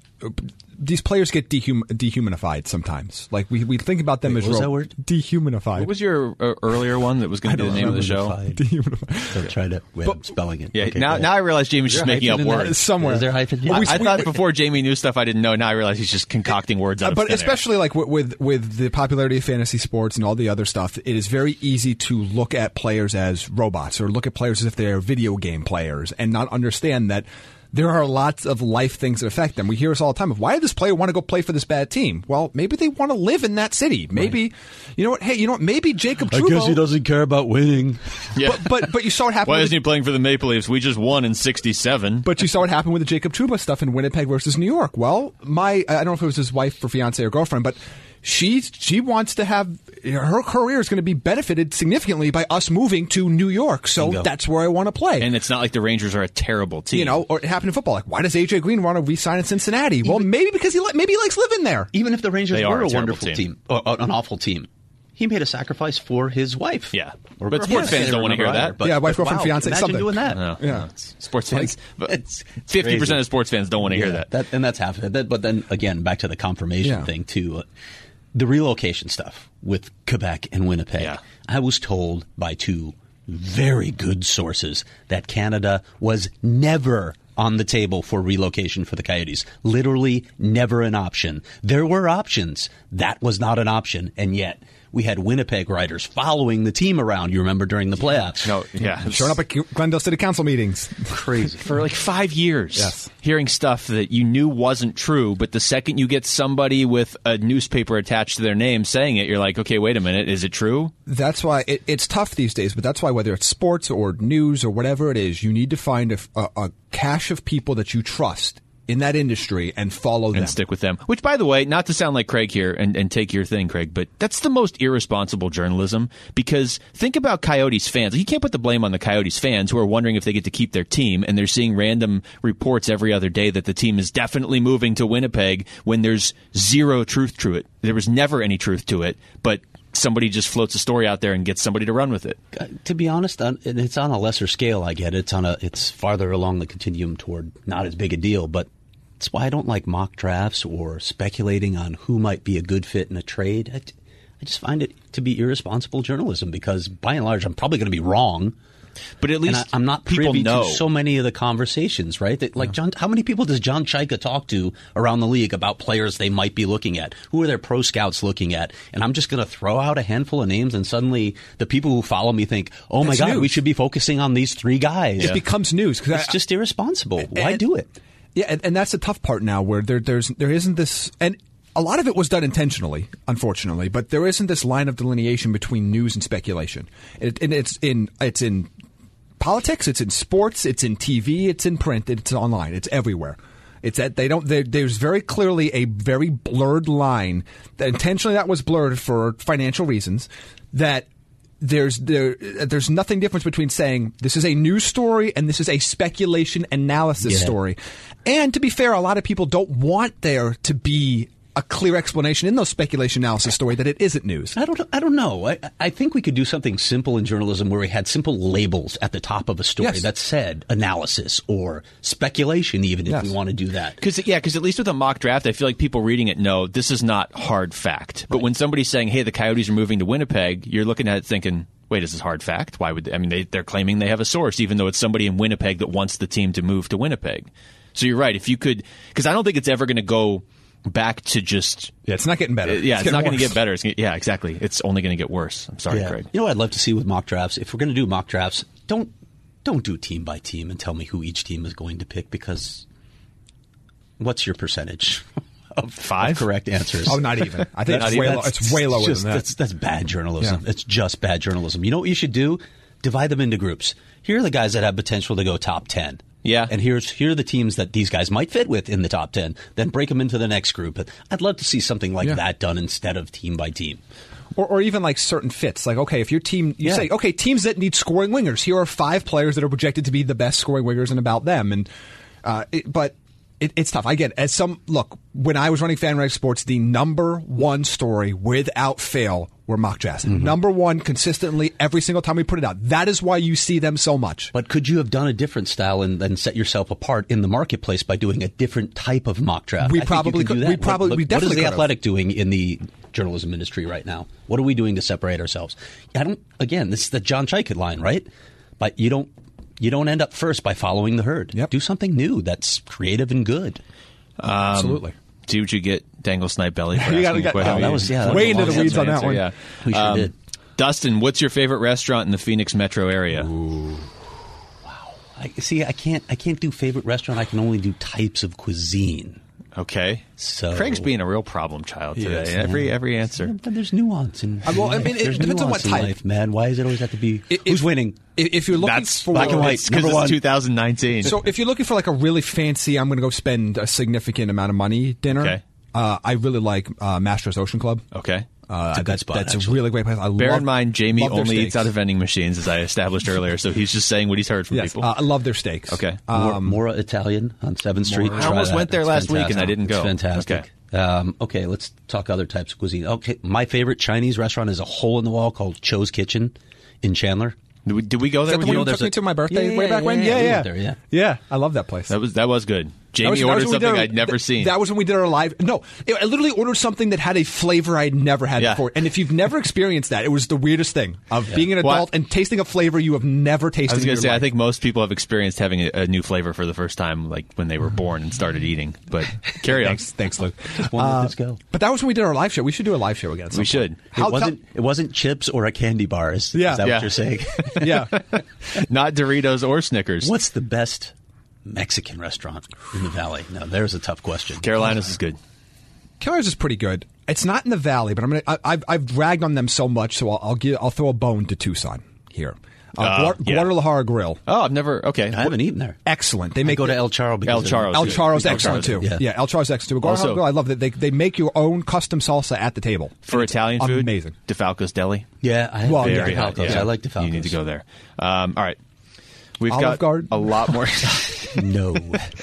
These players get dehumanified sometimes. Like, we think about them as... What was that word? Dehumanified. What was your earlier one that was going to be the name of the show? Dehumanified. Don't try to... I'm spelling it. Yeah, Okay, now I realize Jamie's just making up words. Somewhere. Is there hyphen? Yeah. I thought before Jamie knew stuff I didn't know. Now I realize he's just concocting words out of But thin especially like with the popularity of fantasy sports and all the other stuff, it is very easy to look at players as robots, or look at players as if they're video game players, and not understand that there are lots of life things that affect them. We hear this all the time of, why did this player want to go play for this bad team? Well, maybe they want to live in that city. Maybe, right. You know what? Hey, maybe Jacob Trouba... I guess he doesn't care about winning. Yeah. But you saw what happened... Why isn't he playing for the Maple Leafs? We just won in 1967. But you saw what happened with the Jacob Trouba stuff in Winnipeg versus New York. Well, I don't know if it was his wife or fiance or girlfriend, but she wants to have... Her career is going to be benefited significantly by us moving to New York, so that's where I want to play. And it's not like the Rangers are a terrible team. Or it happened in football. Like, why does A.J. Green want to re-sign in Cincinnati? Well, maybe because he likes living there. Even if the Rangers were a wonderful team, or an awful team, he made a sacrifice for his wife. Yeah. But sports fans don't want to hear that. But, wife, girlfriend, fiance, imagine something. Doing that. No, yeah. Sports fans. It's 50% of sports fans don't want to hear that. And that's half of it. But then, again, back to the confirmation thing, too. The relocation stuff with Quebec and Winnipeg. Yeah. I was told by two very good sources that Canada was never on the table for relocation for the Coyotes. Literally never an option. There were options. That was not an option. And yet we had Winnipeg writers following the team around, you remember, during the playoffs. No, yeah. Showing up at Glendale City Council meetings. Crazy. For like 5 years. Hearing stuff that you knew wasn't true, but the second you get somebody with a newspaper attached to their name saying it, you're like, okay, wait a minute, is it true? That's why it's tough these days, but that's why whether it's sports or news or whatever it is, you need to find a cache of people that you trust in that industry and follow them. And stick with them. Which, by the way, not to sound like Craig here and take your thing, Craig, but that's the most irresponsible journalism, because think about Coyotes fans. You can't put the blame on the Coyotes fans who are wondering if they get to keep their team, and they're seeing random reports every other day that the team is definitely moving to Winnipeg when there's zero truth to it. There was never any truth to it, but somebody just floats a story out there and gets somebody to run with it. To be honest, it's on a lesser scale, I get it. It's farther along the continuum toward not as big a deal, but that's why I don't like mock drafts or speculating on who might be a good fit in a trade. I just find it to be irresponsible journalism, because by and large I'm probably going to be wrong. But at least I'm not privy to so many of the conversations, right? That, like how many people does John Chaika talk to around the league about players they might be looking at? Who are their pro scouts looking at? And I'm just going to throw out a handful of names, and suddenly the people who follow me think, "Oh my God, we should be focusing on these three guys." It becomes news. It's just irresponsible. Why do it? Yeah, and that's the tough part now, where there isn't this, and a lot of it was done intentionally, unfortunately, but there isn't this line of delineation between news and speculation. And it's in politics, it's in sports, it's in TV, it's in print, it's online, it's everywhere. It's that there's very clearly a very blurred line that intentionally that was blurred for financial reasons, that there's nothing difference between saying this is a news story and this is a speculation analysis story. And to be fair, a lot of people don't want there to be a clear explanation in those speculation analysis story that it isn't news. I don't know. I think we could do something simple in journalism where we had simple labels at the top of a story that said analysis or speculation, even if we want to do that. Because at least with a mock draft, I feel like people reading it know this is not hard fact. But when somebody's saying, hey, the Coyotes are moving to Winnipeg, you're looking at it thinking, wait, is this hard fact? Why would they're claiming they have a source, even though it's somebody in Winnipeg that wants the team to move to Winnipeg. So you're right. If you could, because I don't think it's ever going to go back to just... Yeah, it's not getting better. It's not going to get better. Exactly. It's only going to get worse. I'm sorry, Craig. You know what I'd love to see with mock drafts? If we're going to do mock drafts, don't do team by team and tell me who each team is going to pick, because what's your percentage? of 5 correct answers. Oh, not even. I think it's way lower than that. That's bad journalism. Yeah. It's just bad journalism. You know what you should do? Divide them into groups. Here are the guys that have potential to go top 10. Yeah. And here are the teams that these guys might fit with in the top 10. Then break them into the next group. I'd love to see something like that done instead of team by team. Or even like certain fits. Like, okay, if your team, you say, okay, teams that need scoring wingers, here are 5 players that are projected to be the best scoring wingers and about them. And it's tough. I get it. Look, when I was running FanRag Sports, the number one story without fail were mock drafts. Mm-hmm. Number one consistently every single time we put it out. That is why you see them so much. But could you have done a different style and then set yourself apart in the marketplace by doing a different type of mock draft? We probably could. We definitely could. What is the Athletic doing in the journalism industry right now? What are we doing to separate ourselves? Again, this is the John Chikut line, right? But you don't end up first by following the herd. Yep. Do something new that's creative and good. Absolutely. See what you get, Dangle Snipe Belly. For You asking got- a question. that was way into the weeds on that one. Yeah. We sure did. Dustin, what's your favorite restaurant in the Phoenix metro area? I can't do favorite restaurant. I can only do types of cuisine. Okay. So Craig's being a real problem child today. is. Every answer. But there's nuance in Well, I mean, it there's depends on what nuance in type. life, man. Why does it always have to be who's winning? If you're looking That's for black and white. because Number it's one. 2019. So if you're looking for like a really fancy, I'm going to go spend a significant amount of money dinner. Okay. I really like Masters Ocean Club. Okay. It's a good spot, That's actually. a really great place. Bear in mind, Jamie love their only eats steaks. out of vending machines, as I established earlier, so he's just saying what he's heard from Yes, people. I love their steaks. Okay. Mora Italian on 7th Street. I Try almost that. went there It's last week and I fantastic. didn't go. It's fantastic. Okay, let's talk other types of cuisine. Okay, my favorite Chinese restaurant is a hole in the wall called Cho's Kitchen in Chandler. Did we go there Is that with the one you? you took me to my birthday way back when? we Yeah. went there, Yeah, I love that place. That was good. Jamie That was ordered when we something did our- I'd never seen. That was when we did our live. No, I literally ordered something that had a flavor I'd never had Yeah. before. And if you've never experienced that, it was the weirdest thing of being an Well, adult and tasting a flavor you have never tasted. I was in going your to say, I life. think most people have experienced having a new flavor for the first time, like when they were born and started eating. But carry on. Thanks, Luke. Let's go. But that was when we did our live show. We should do a live show again. at some We should. point. It wasn't chips or a candy bar. Is Yeah. that Yeah. what you're saying? Yeah. Not Doritos or Snickers. What's the best Mexican restaurant in the Valley? Now, there's a tough question. Carolina's is good. Keller's is pretty good. It's not in the Valley, but I've ragged on them so much, so I'll throw a bone to Tucson here. Yeah. Guadalajara Grill, Oh, I've never. Okay. I haven't eaten there. excellent. They I make go to El Charro because El Charro. El Good. Charro's El excellent Charro's too. good. Yeah, El Charro's excellent too. Guadalajara Also- Grill, I love that they make your own custom salsa at the table For Italian food, Amazing. DeFalco's Deli. Yeah, I Well, yeah, Very hot. DeFalco's. Yeah. I like DeFalco's. You need to go there. All right. We've Olive got Garden? a lot more. No.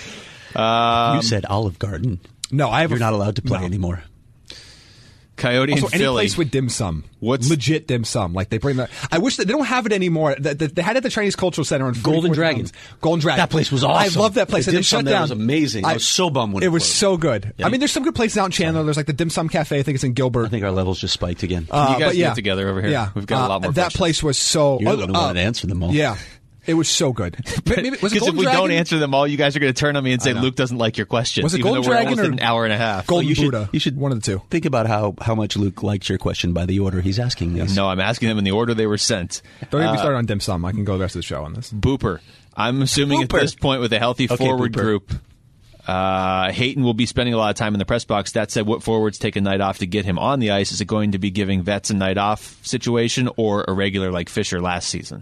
You said Olive Garden. No, I have. You're not allowed to play no. anymore. Coyote Also, and any Philly. place with dim sum, What's- legit dim sum? Like they bring that. I wish that they don't have it anymore. They had it at the Chinese Cultural Center on Golden 44th Dragon. Mountains. Golden Dragon. That place was awesome. I love that place. The And dim they sum shut there down. was amazing. I was so bummed when it was closed. so good. Yeah. I mean, there's some good places out in Chandler. There's like the Dim Sum Cafe. I think it's in Gilbert. I think our levels just spiked again. you guys but yeah. get together over here? Yeah, We've got a lot more That questions. place was so. You're the one who wanted to answer them all. Yeah, it was so good. Maybe, was it Because if Golden we Dragon? don't answer them all, you guys are going to turn on me and say know. Luke doesn't like your questions. Was it even Golden though we're Dragon almost or at an hour and a half. Golden you should- Buddha. you should- one of the two. Think about how much Luke liked your question by the order he's asking these. No, I'm asking them in the order they were sent. Don't get me started on dim sum. I can go the rest of the show on this. Booper. I'm assuming at Booper. this point with a healthy Okay, forward Booper. group, Hayton will be spending a lot of time in the press box. That said, what forwards take a night off to get him on the ice? Is it going to be giving vets a night off situation or a regular like Fisher last season?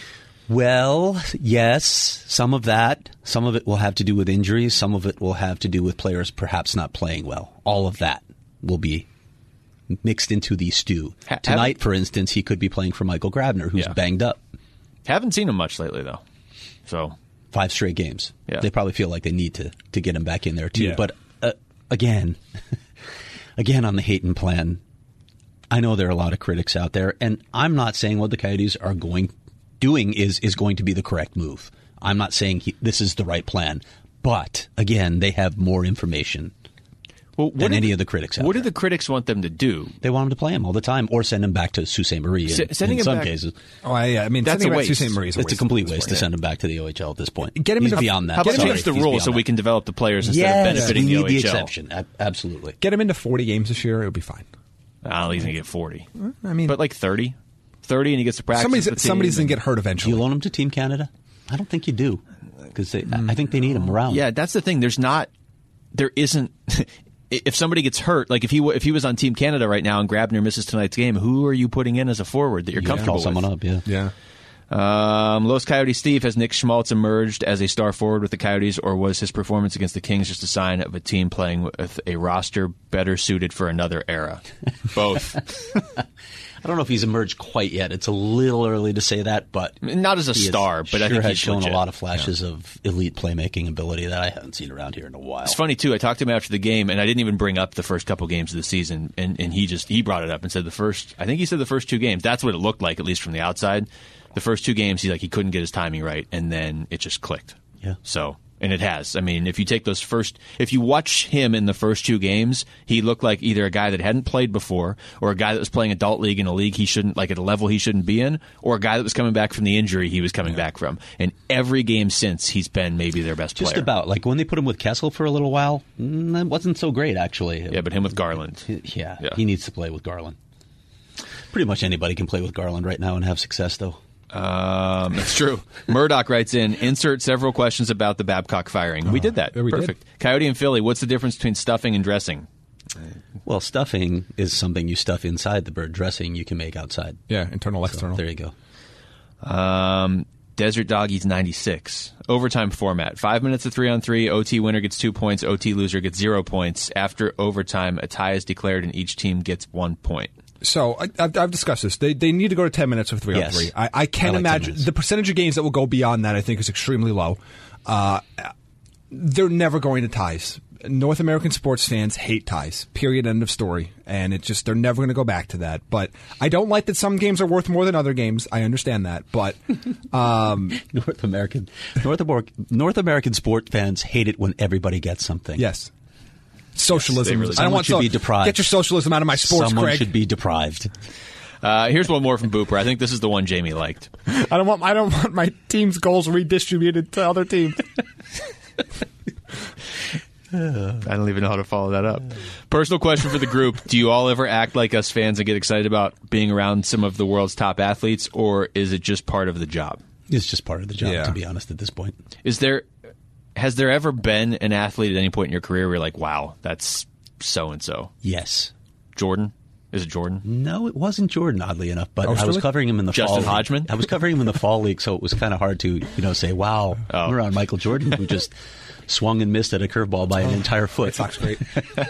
Well, yes, some of that. Some of it will have to do with injuries. Some of it will have to do with players perhaps not playing well. All of that will be mixed into the stew. Tonight, for instance, he could be playing for Michael Grabner, who's Yeah. banged up. Haven't seen him much lately, though. So 5 straight games. Yeah. They probably feel like they need to get him back in there, too. Yeah. But again, on the Hayton plan, I know there are a lot of critics out there, and I'm not saying what the Coyotes are doing is going to be the correct move. I'm not saying this is the right plan. But, again, they have more information than any of the critics out What there. do the critics want them to do? They want him to play him all the time or send him back to Sault Ste. Marie Sending in him some back- cases. Oh, yeah. I mean, That's sending a him back to waste. St. Mary's. It's a complete waste to send him back to the OHL at this point. Get him He's into- beyond that. How about Get him change the He's rule beyond so that. we can develop the players instead Yes, of benefiting we the need the OHL? exception. Absolutely. Get him into 40 games this year. It would be fine. I don't think he's going to get 40. I mean, But like 30? 30 and he gets to practice with the team somebody's going and- to get hurt Do eventually. you loan him to Team Canada? I don't think you do, because I think they need him around. Yeah, that's the thing. There isn't. if somebody gets hurt, like if he was on Team Canada right now and Grabner misses tonight's game, who are you putting in as a forward that you're comfortable with? Call someone up, yeah. Los Coyotes Steve, has Nick Schmaltz emerged as a star forward with the Coyotes, or was his performance against the Kings just a sign of a team playing with a roster better suited for another era? Both. I don't know if he's emerged quite yet. It's a little early to say that, but not as a star. But I think has he's shown legit. A lot of flashes of elite playmaking ability that I haven't seen around here in a while. It's funny too. I talked to him after the game, and I didn't even bring up the first couple games of the season, and he brought it up and said the first 2 games. That's what it looked like, at least from the outside. The first 2 games, he couldn't get his timing right, and then it just clicked. Yeah. So. And it has. I mean, if you watch him in the first 2 games, he looked like either a guy that hadn't played before, or a guy that was playing adult league in a league he shouldn't, like at a level he shouldn't be in, or a guy that was coming back from the injury he was coming back from. And every game since, he's been maybe their best player. Just about. Like when they put him with Kessel for a little while, that wasn't so great, actually. Yeah, but him with Garland. Yeah, he needs to play with Garland. Pretty much anybody can play with Garland right now and have success, though. That's true. Murdoch writes in, insert several questions about the Babcock firing. We did that. Yeah, we Perfect. Did. Coyote and Philly, what's the difference between stuffing and dressing? Well, stuffing is something you stuff inside the bird. Dressing you can make outside. Yeah, internal, external. There you go. Desert Doggies 96. Overtime format. 5 minutes of 3-on-3. OT winner gets 2 points. OT loser gets 0 points. After overtime, a tie is declared and each team gets 1 point. So I've discussed this. They need to go to 10 minutes of 3-on-3. Yes. I can't imagine the percentage of games that will go beyond that. I think is extremely low. They're never going to ties. North American sports fans hate ties. Period. End of story. And they're never going to go back to that. But I don't like that some games are worth more than other games. I understand that. But North American sport fans hate it when everybody gets something. Yes. Socialism. Yes, I don't want to be deprived. Get your socialism out of my sports, Someone Craig. should be deprived. Here's one more from Booper. I think this is the one Jamie liked. I don't want my team's goals redistributed to other teams. I don't even know how to follow that up. Personal question for the group. Do you all ever act like us fans and get excited about being around some of the world's top athletes, or is it just part of the job? It's just part of the job, to be honest, at this point. Has there ever been an athlete at any point in your career where you're like, wow, that's so-and-so? Yes. Jordan? Is it Jordan? No, it wasn't Jordan, oddly enough. But I was covering him in the fall. Justin Hodgman? I was covering him in the fall league, so it was kind of hard to say, wow, I'm around Michael Jordan, who just swung and missed at a curveball by an entire foot. Sox great.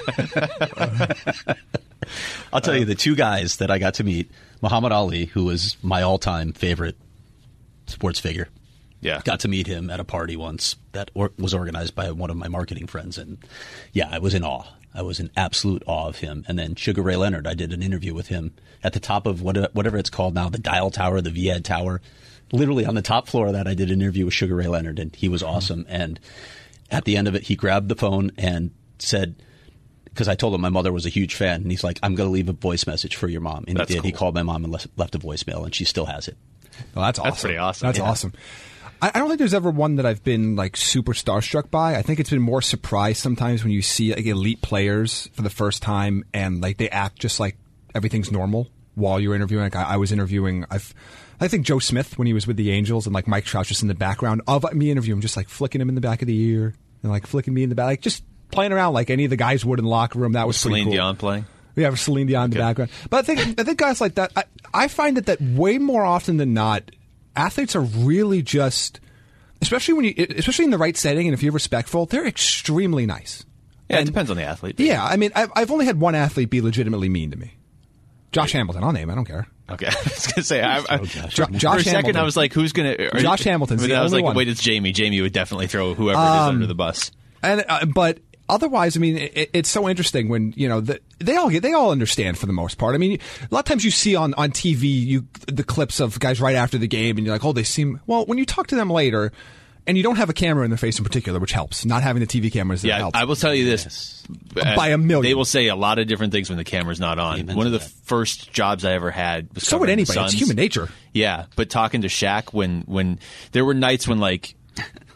I'll tell you, the 2 guys that I got to meet, Muhammad Ali, who was my all-time favorite sports figure. Yeah. Got to meet him at a party once that was organized by one of my marketing friends. And yeah, I was in awe. I was in absolute awe of him. And then Sugar Ray Leonard, I did an interview with him at the top of whatever it's called now, the Dial Tower, the Viad Tower. Literally on the top floor of that, I did an interview with Sugar Ray Leonard, and he was awesome. And at the end of it, he grabbed the phone and said, because I told him my mother was a huge fan, and he's like, I'm going to leave a voice message for your mom. And That's he did. cool. He called my mom and left a voicemail, and she still has it. Well, that's awesome. That's pretty awesome. That's awesome. I don't think there's ever one that I've been like super starstruck by. I think it's been more surprise sometimes when you see like elite players for the first time and like they act just like everything's normal while you're interviewing. Like I was interviewing, I think Joe Smith when he was with the Angels, and like Mike Trout just in the background of me interviewing, just like flicking him in the back of the ear and like flicking me in the back, like just playing around like any of the guys would in the locker room. That was pretty cool. Celine Dion playing? Yeah, Celine Dion in the background. But I think guys like that, I find that way more often than not, athletes are really just, especially in the right setting and if you're respectful, they're extremely nice. Yeah, it depends on the athlete. Yeah, I mean, I've only had one athlete be legitimately mean to me. Josh Hamilton. I'll name him. I don't care. Okay, I was going to say, Josh for a second Hamilton. I was like, who's going to... Josh Hamilton's the I was only like, one. wait, it's Jamie. Jamie would definitely throw whoever it is under the bus. And but otherwise, I mean, it's so interesting when they all understand for the most part. I mean, a lot of times you see on TV the clips of guys right after the game, and you're like, oh, they seem well. When you talk to them later, and you don't have a camera in their face in particular, which helps. Not having the TV cameras that helps. I will tell you this. By a million. They will say a lot of different things when the camera's not on. One of the first jobs I ever had was so would covering the anybody. It's Suns. human nature. Yeah, but talking to Shaq when there were nights when like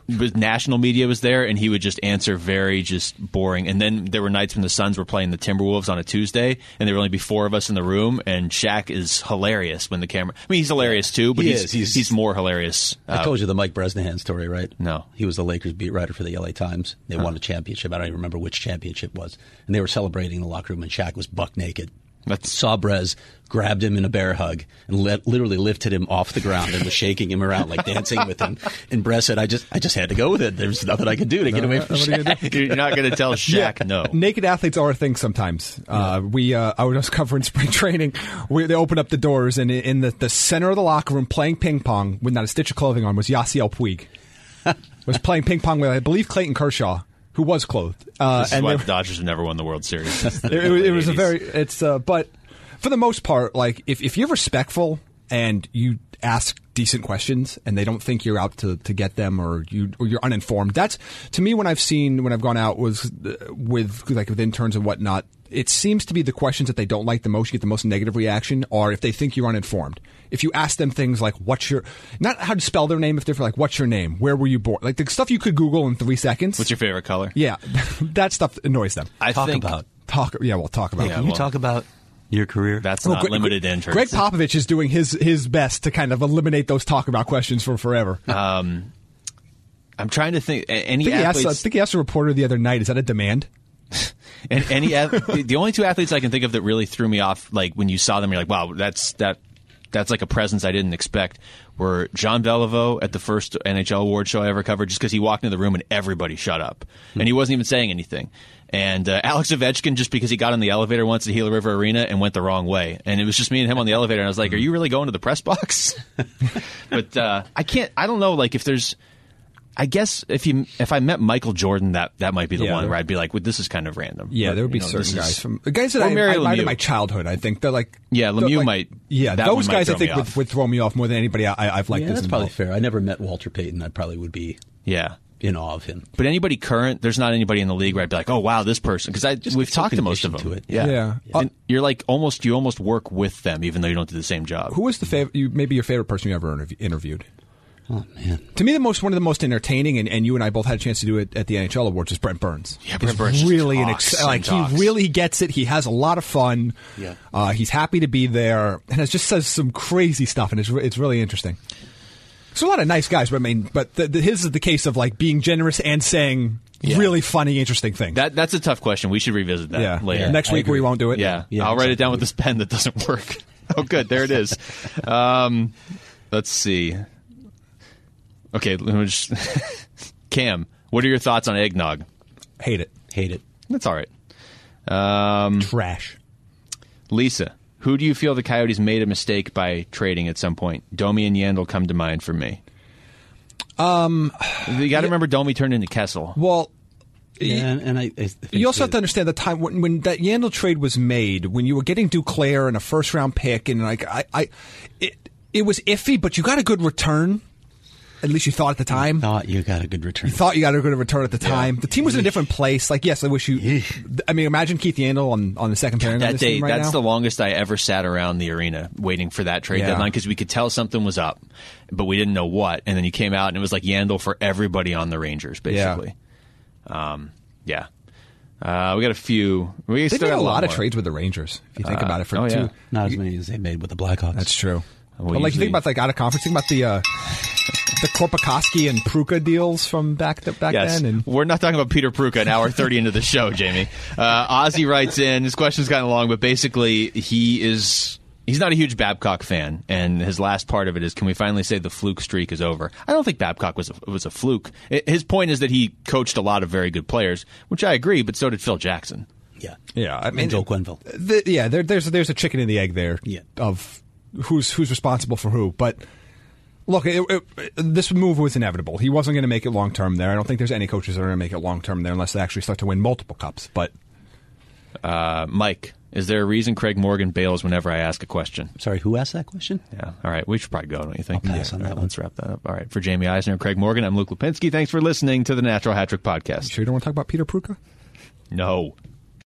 national media was there, and he would just answer very just boring. And then there were nights when the Suns were playing the Timberwolves on a Tuesday, and there would only be 4 of us in the room, and Shaq is hilarious when the camera... I mean, he's hilarious too, but he's more hilarious. I told you the Mike Bresnahan story, right? No. He was the Lakers beat writer for the LA Times. They won a championship. I don't even remember which championship it was. And they were celebrating in the locker room, and Shaq was buck naked. Saw Brez, grabbed him in a bear hug, and literally lifted him off the ground and was shaking him around, like dancing with him. And Brez said, I just had to go with it. There's nothing I could do to get away from Shaq. You're not going to tell Shaq no. Naked athletes are a thing sometimes. I was covering spring training. They opened up the doors, and in the center of the locker room, playing ping pong with not a stitch of clothing on, was Yasiel Puig. Was playing ping pong with, I believe, Clayton Kershaw, who was clothed. This is why the Dodgers have never won the World Series. It was a very... but for the most part, like, if you're respectful and you ask decent questions and they don't think you're out to get them or you're uninformed, that's, to me, when I've gone out with interns and whatnot, it seems to be the questions that they don't like the most, you get the most negative reaction, or if they think you're uninformed. If you ask them things like, not how to spell their name, if they're like, what's your name? Where were you born? Like the stuff you could Google in 3 seconds. What's your favorite color? Yeah. That stuff annoys them. We'll talk about Can you talk about your career? That's not limited to interns. Greg Popovich is doing his best to kind of eliminate those talk about questions for forever. I'm trying to think. I think he asked a reporter the other night, is that a demand? And the only 2 athletes I can think of that really threw me off, like when you saw them, you're like, wow, that's like a presence I didn't expect, were Jean Beliveau at the first NHL award show I ever covered, just because he walked into the room and everybody shut up. And he wasn't even saying anything. And Alex Ovechkin, just because he got on the elevator once at Gila River Arena and went the wrong way. And it was just me and him on the elevator, and I was like, are you really going to the press box? But I don't know, like, if there's... I guess if I met Michael Jordan, that might be the one where I'd be like, well, this is kind of random. Yeah, but, there would be certain guys that I admired in my childhood. I think they're like, Lemieux might. Yeah, those guys I think would throw me off more than anybody I've liked. Yeah, that's probably fair. I never met Walter Payton. I probably would be in awe of him. But anybody current, there's not anybody in the league where I'd be like, oh wow, this person, because we've talked to most of them. To it. Yeah. And you're like you almost work with them, even though you don't do the same job. Who was maybe your favorite person you ever interviewed? Oh, man. To me, one of the most entertaining, and you and I both had a chance to do it at the NHL Awards, is Brent Burns. Yeah, Brent Burns really he really gets it. He has a lot of fun. Yeah. He's happy to be there, and it just says some crazy stuff, and it's really interesting. There's a lot of nice guys, but his is the case of like being generous and saying really funny, interesting things. That's a tough question. We should revisit that later. Next week we won't do it. Yeah, I'll write it down with this pen that doesn't work. Oh, good. There it is. Let's see. Okay, Cam, what are your thoughts on eggnog? Hate it. That's all right. Trash. Lisa, who do you feel the Coyotes made a mistake by trading at some point? Domi and Yandel come to mind for me. You got to remember Domi turned into Kessel. Well, you also have to understand the time when that Yandel trade was made, when you were getting Duclair and a first-round pick, and like it was iffy, but you got a good return. At least you thought at the time. Thought you got a good return. You thought you got a good return at the time. The team was in a different place. Like, yes, I wish you... I mean, imagine Keith Yandel on the second pairing that on this day. team right That's now. The longest I ever sat around the arena waiting for that trade deadline, because we could tell something was up, but we didn't know what. And then you came out, and it was like Yandel for everybody on the Rangers, basically. We got a few... They made a lot of trades with the Rangers, if you think about it. Not as many as they made with the Blackhawks. That's true. But like, you think about out of conference, think about the Korpikoski and Pruka deals from back then. And we're not talking about Peter Pruka an hour 30 into the show, Jamie. Ozzy writes in, his question's gotten long, but basically he's not a huge Babcock fan, and his last part of it is, can we finally say the fluke streak is over? I don't think Babcock was a fluke. His point is that he coached a lot of very good players, which I agree, but so did Phil Jackson. Yeah. I mean, and Joe Quenneville. There's a chicken and the egg there of who's responsible for who. But look, this move was inevitable. He wasn't going to make it long term there. I don't think there's any coaches that are going to make it long term there unless they actually start to win multiple cups. But Mike, is there a reason Craig Morgan bails whenever I ask a question? Sorry, who asked that question? Yeah. All right. We should probably go, don't you think? I'll pass on that one. Let's wrap that up. All right. For Jamie Eisner and Craig Morgan, I'm Luke Lipinski. Thanks for listening to the Natural Hat Trick Podcast. You sure you don't want to talk about Peter Pruka? No.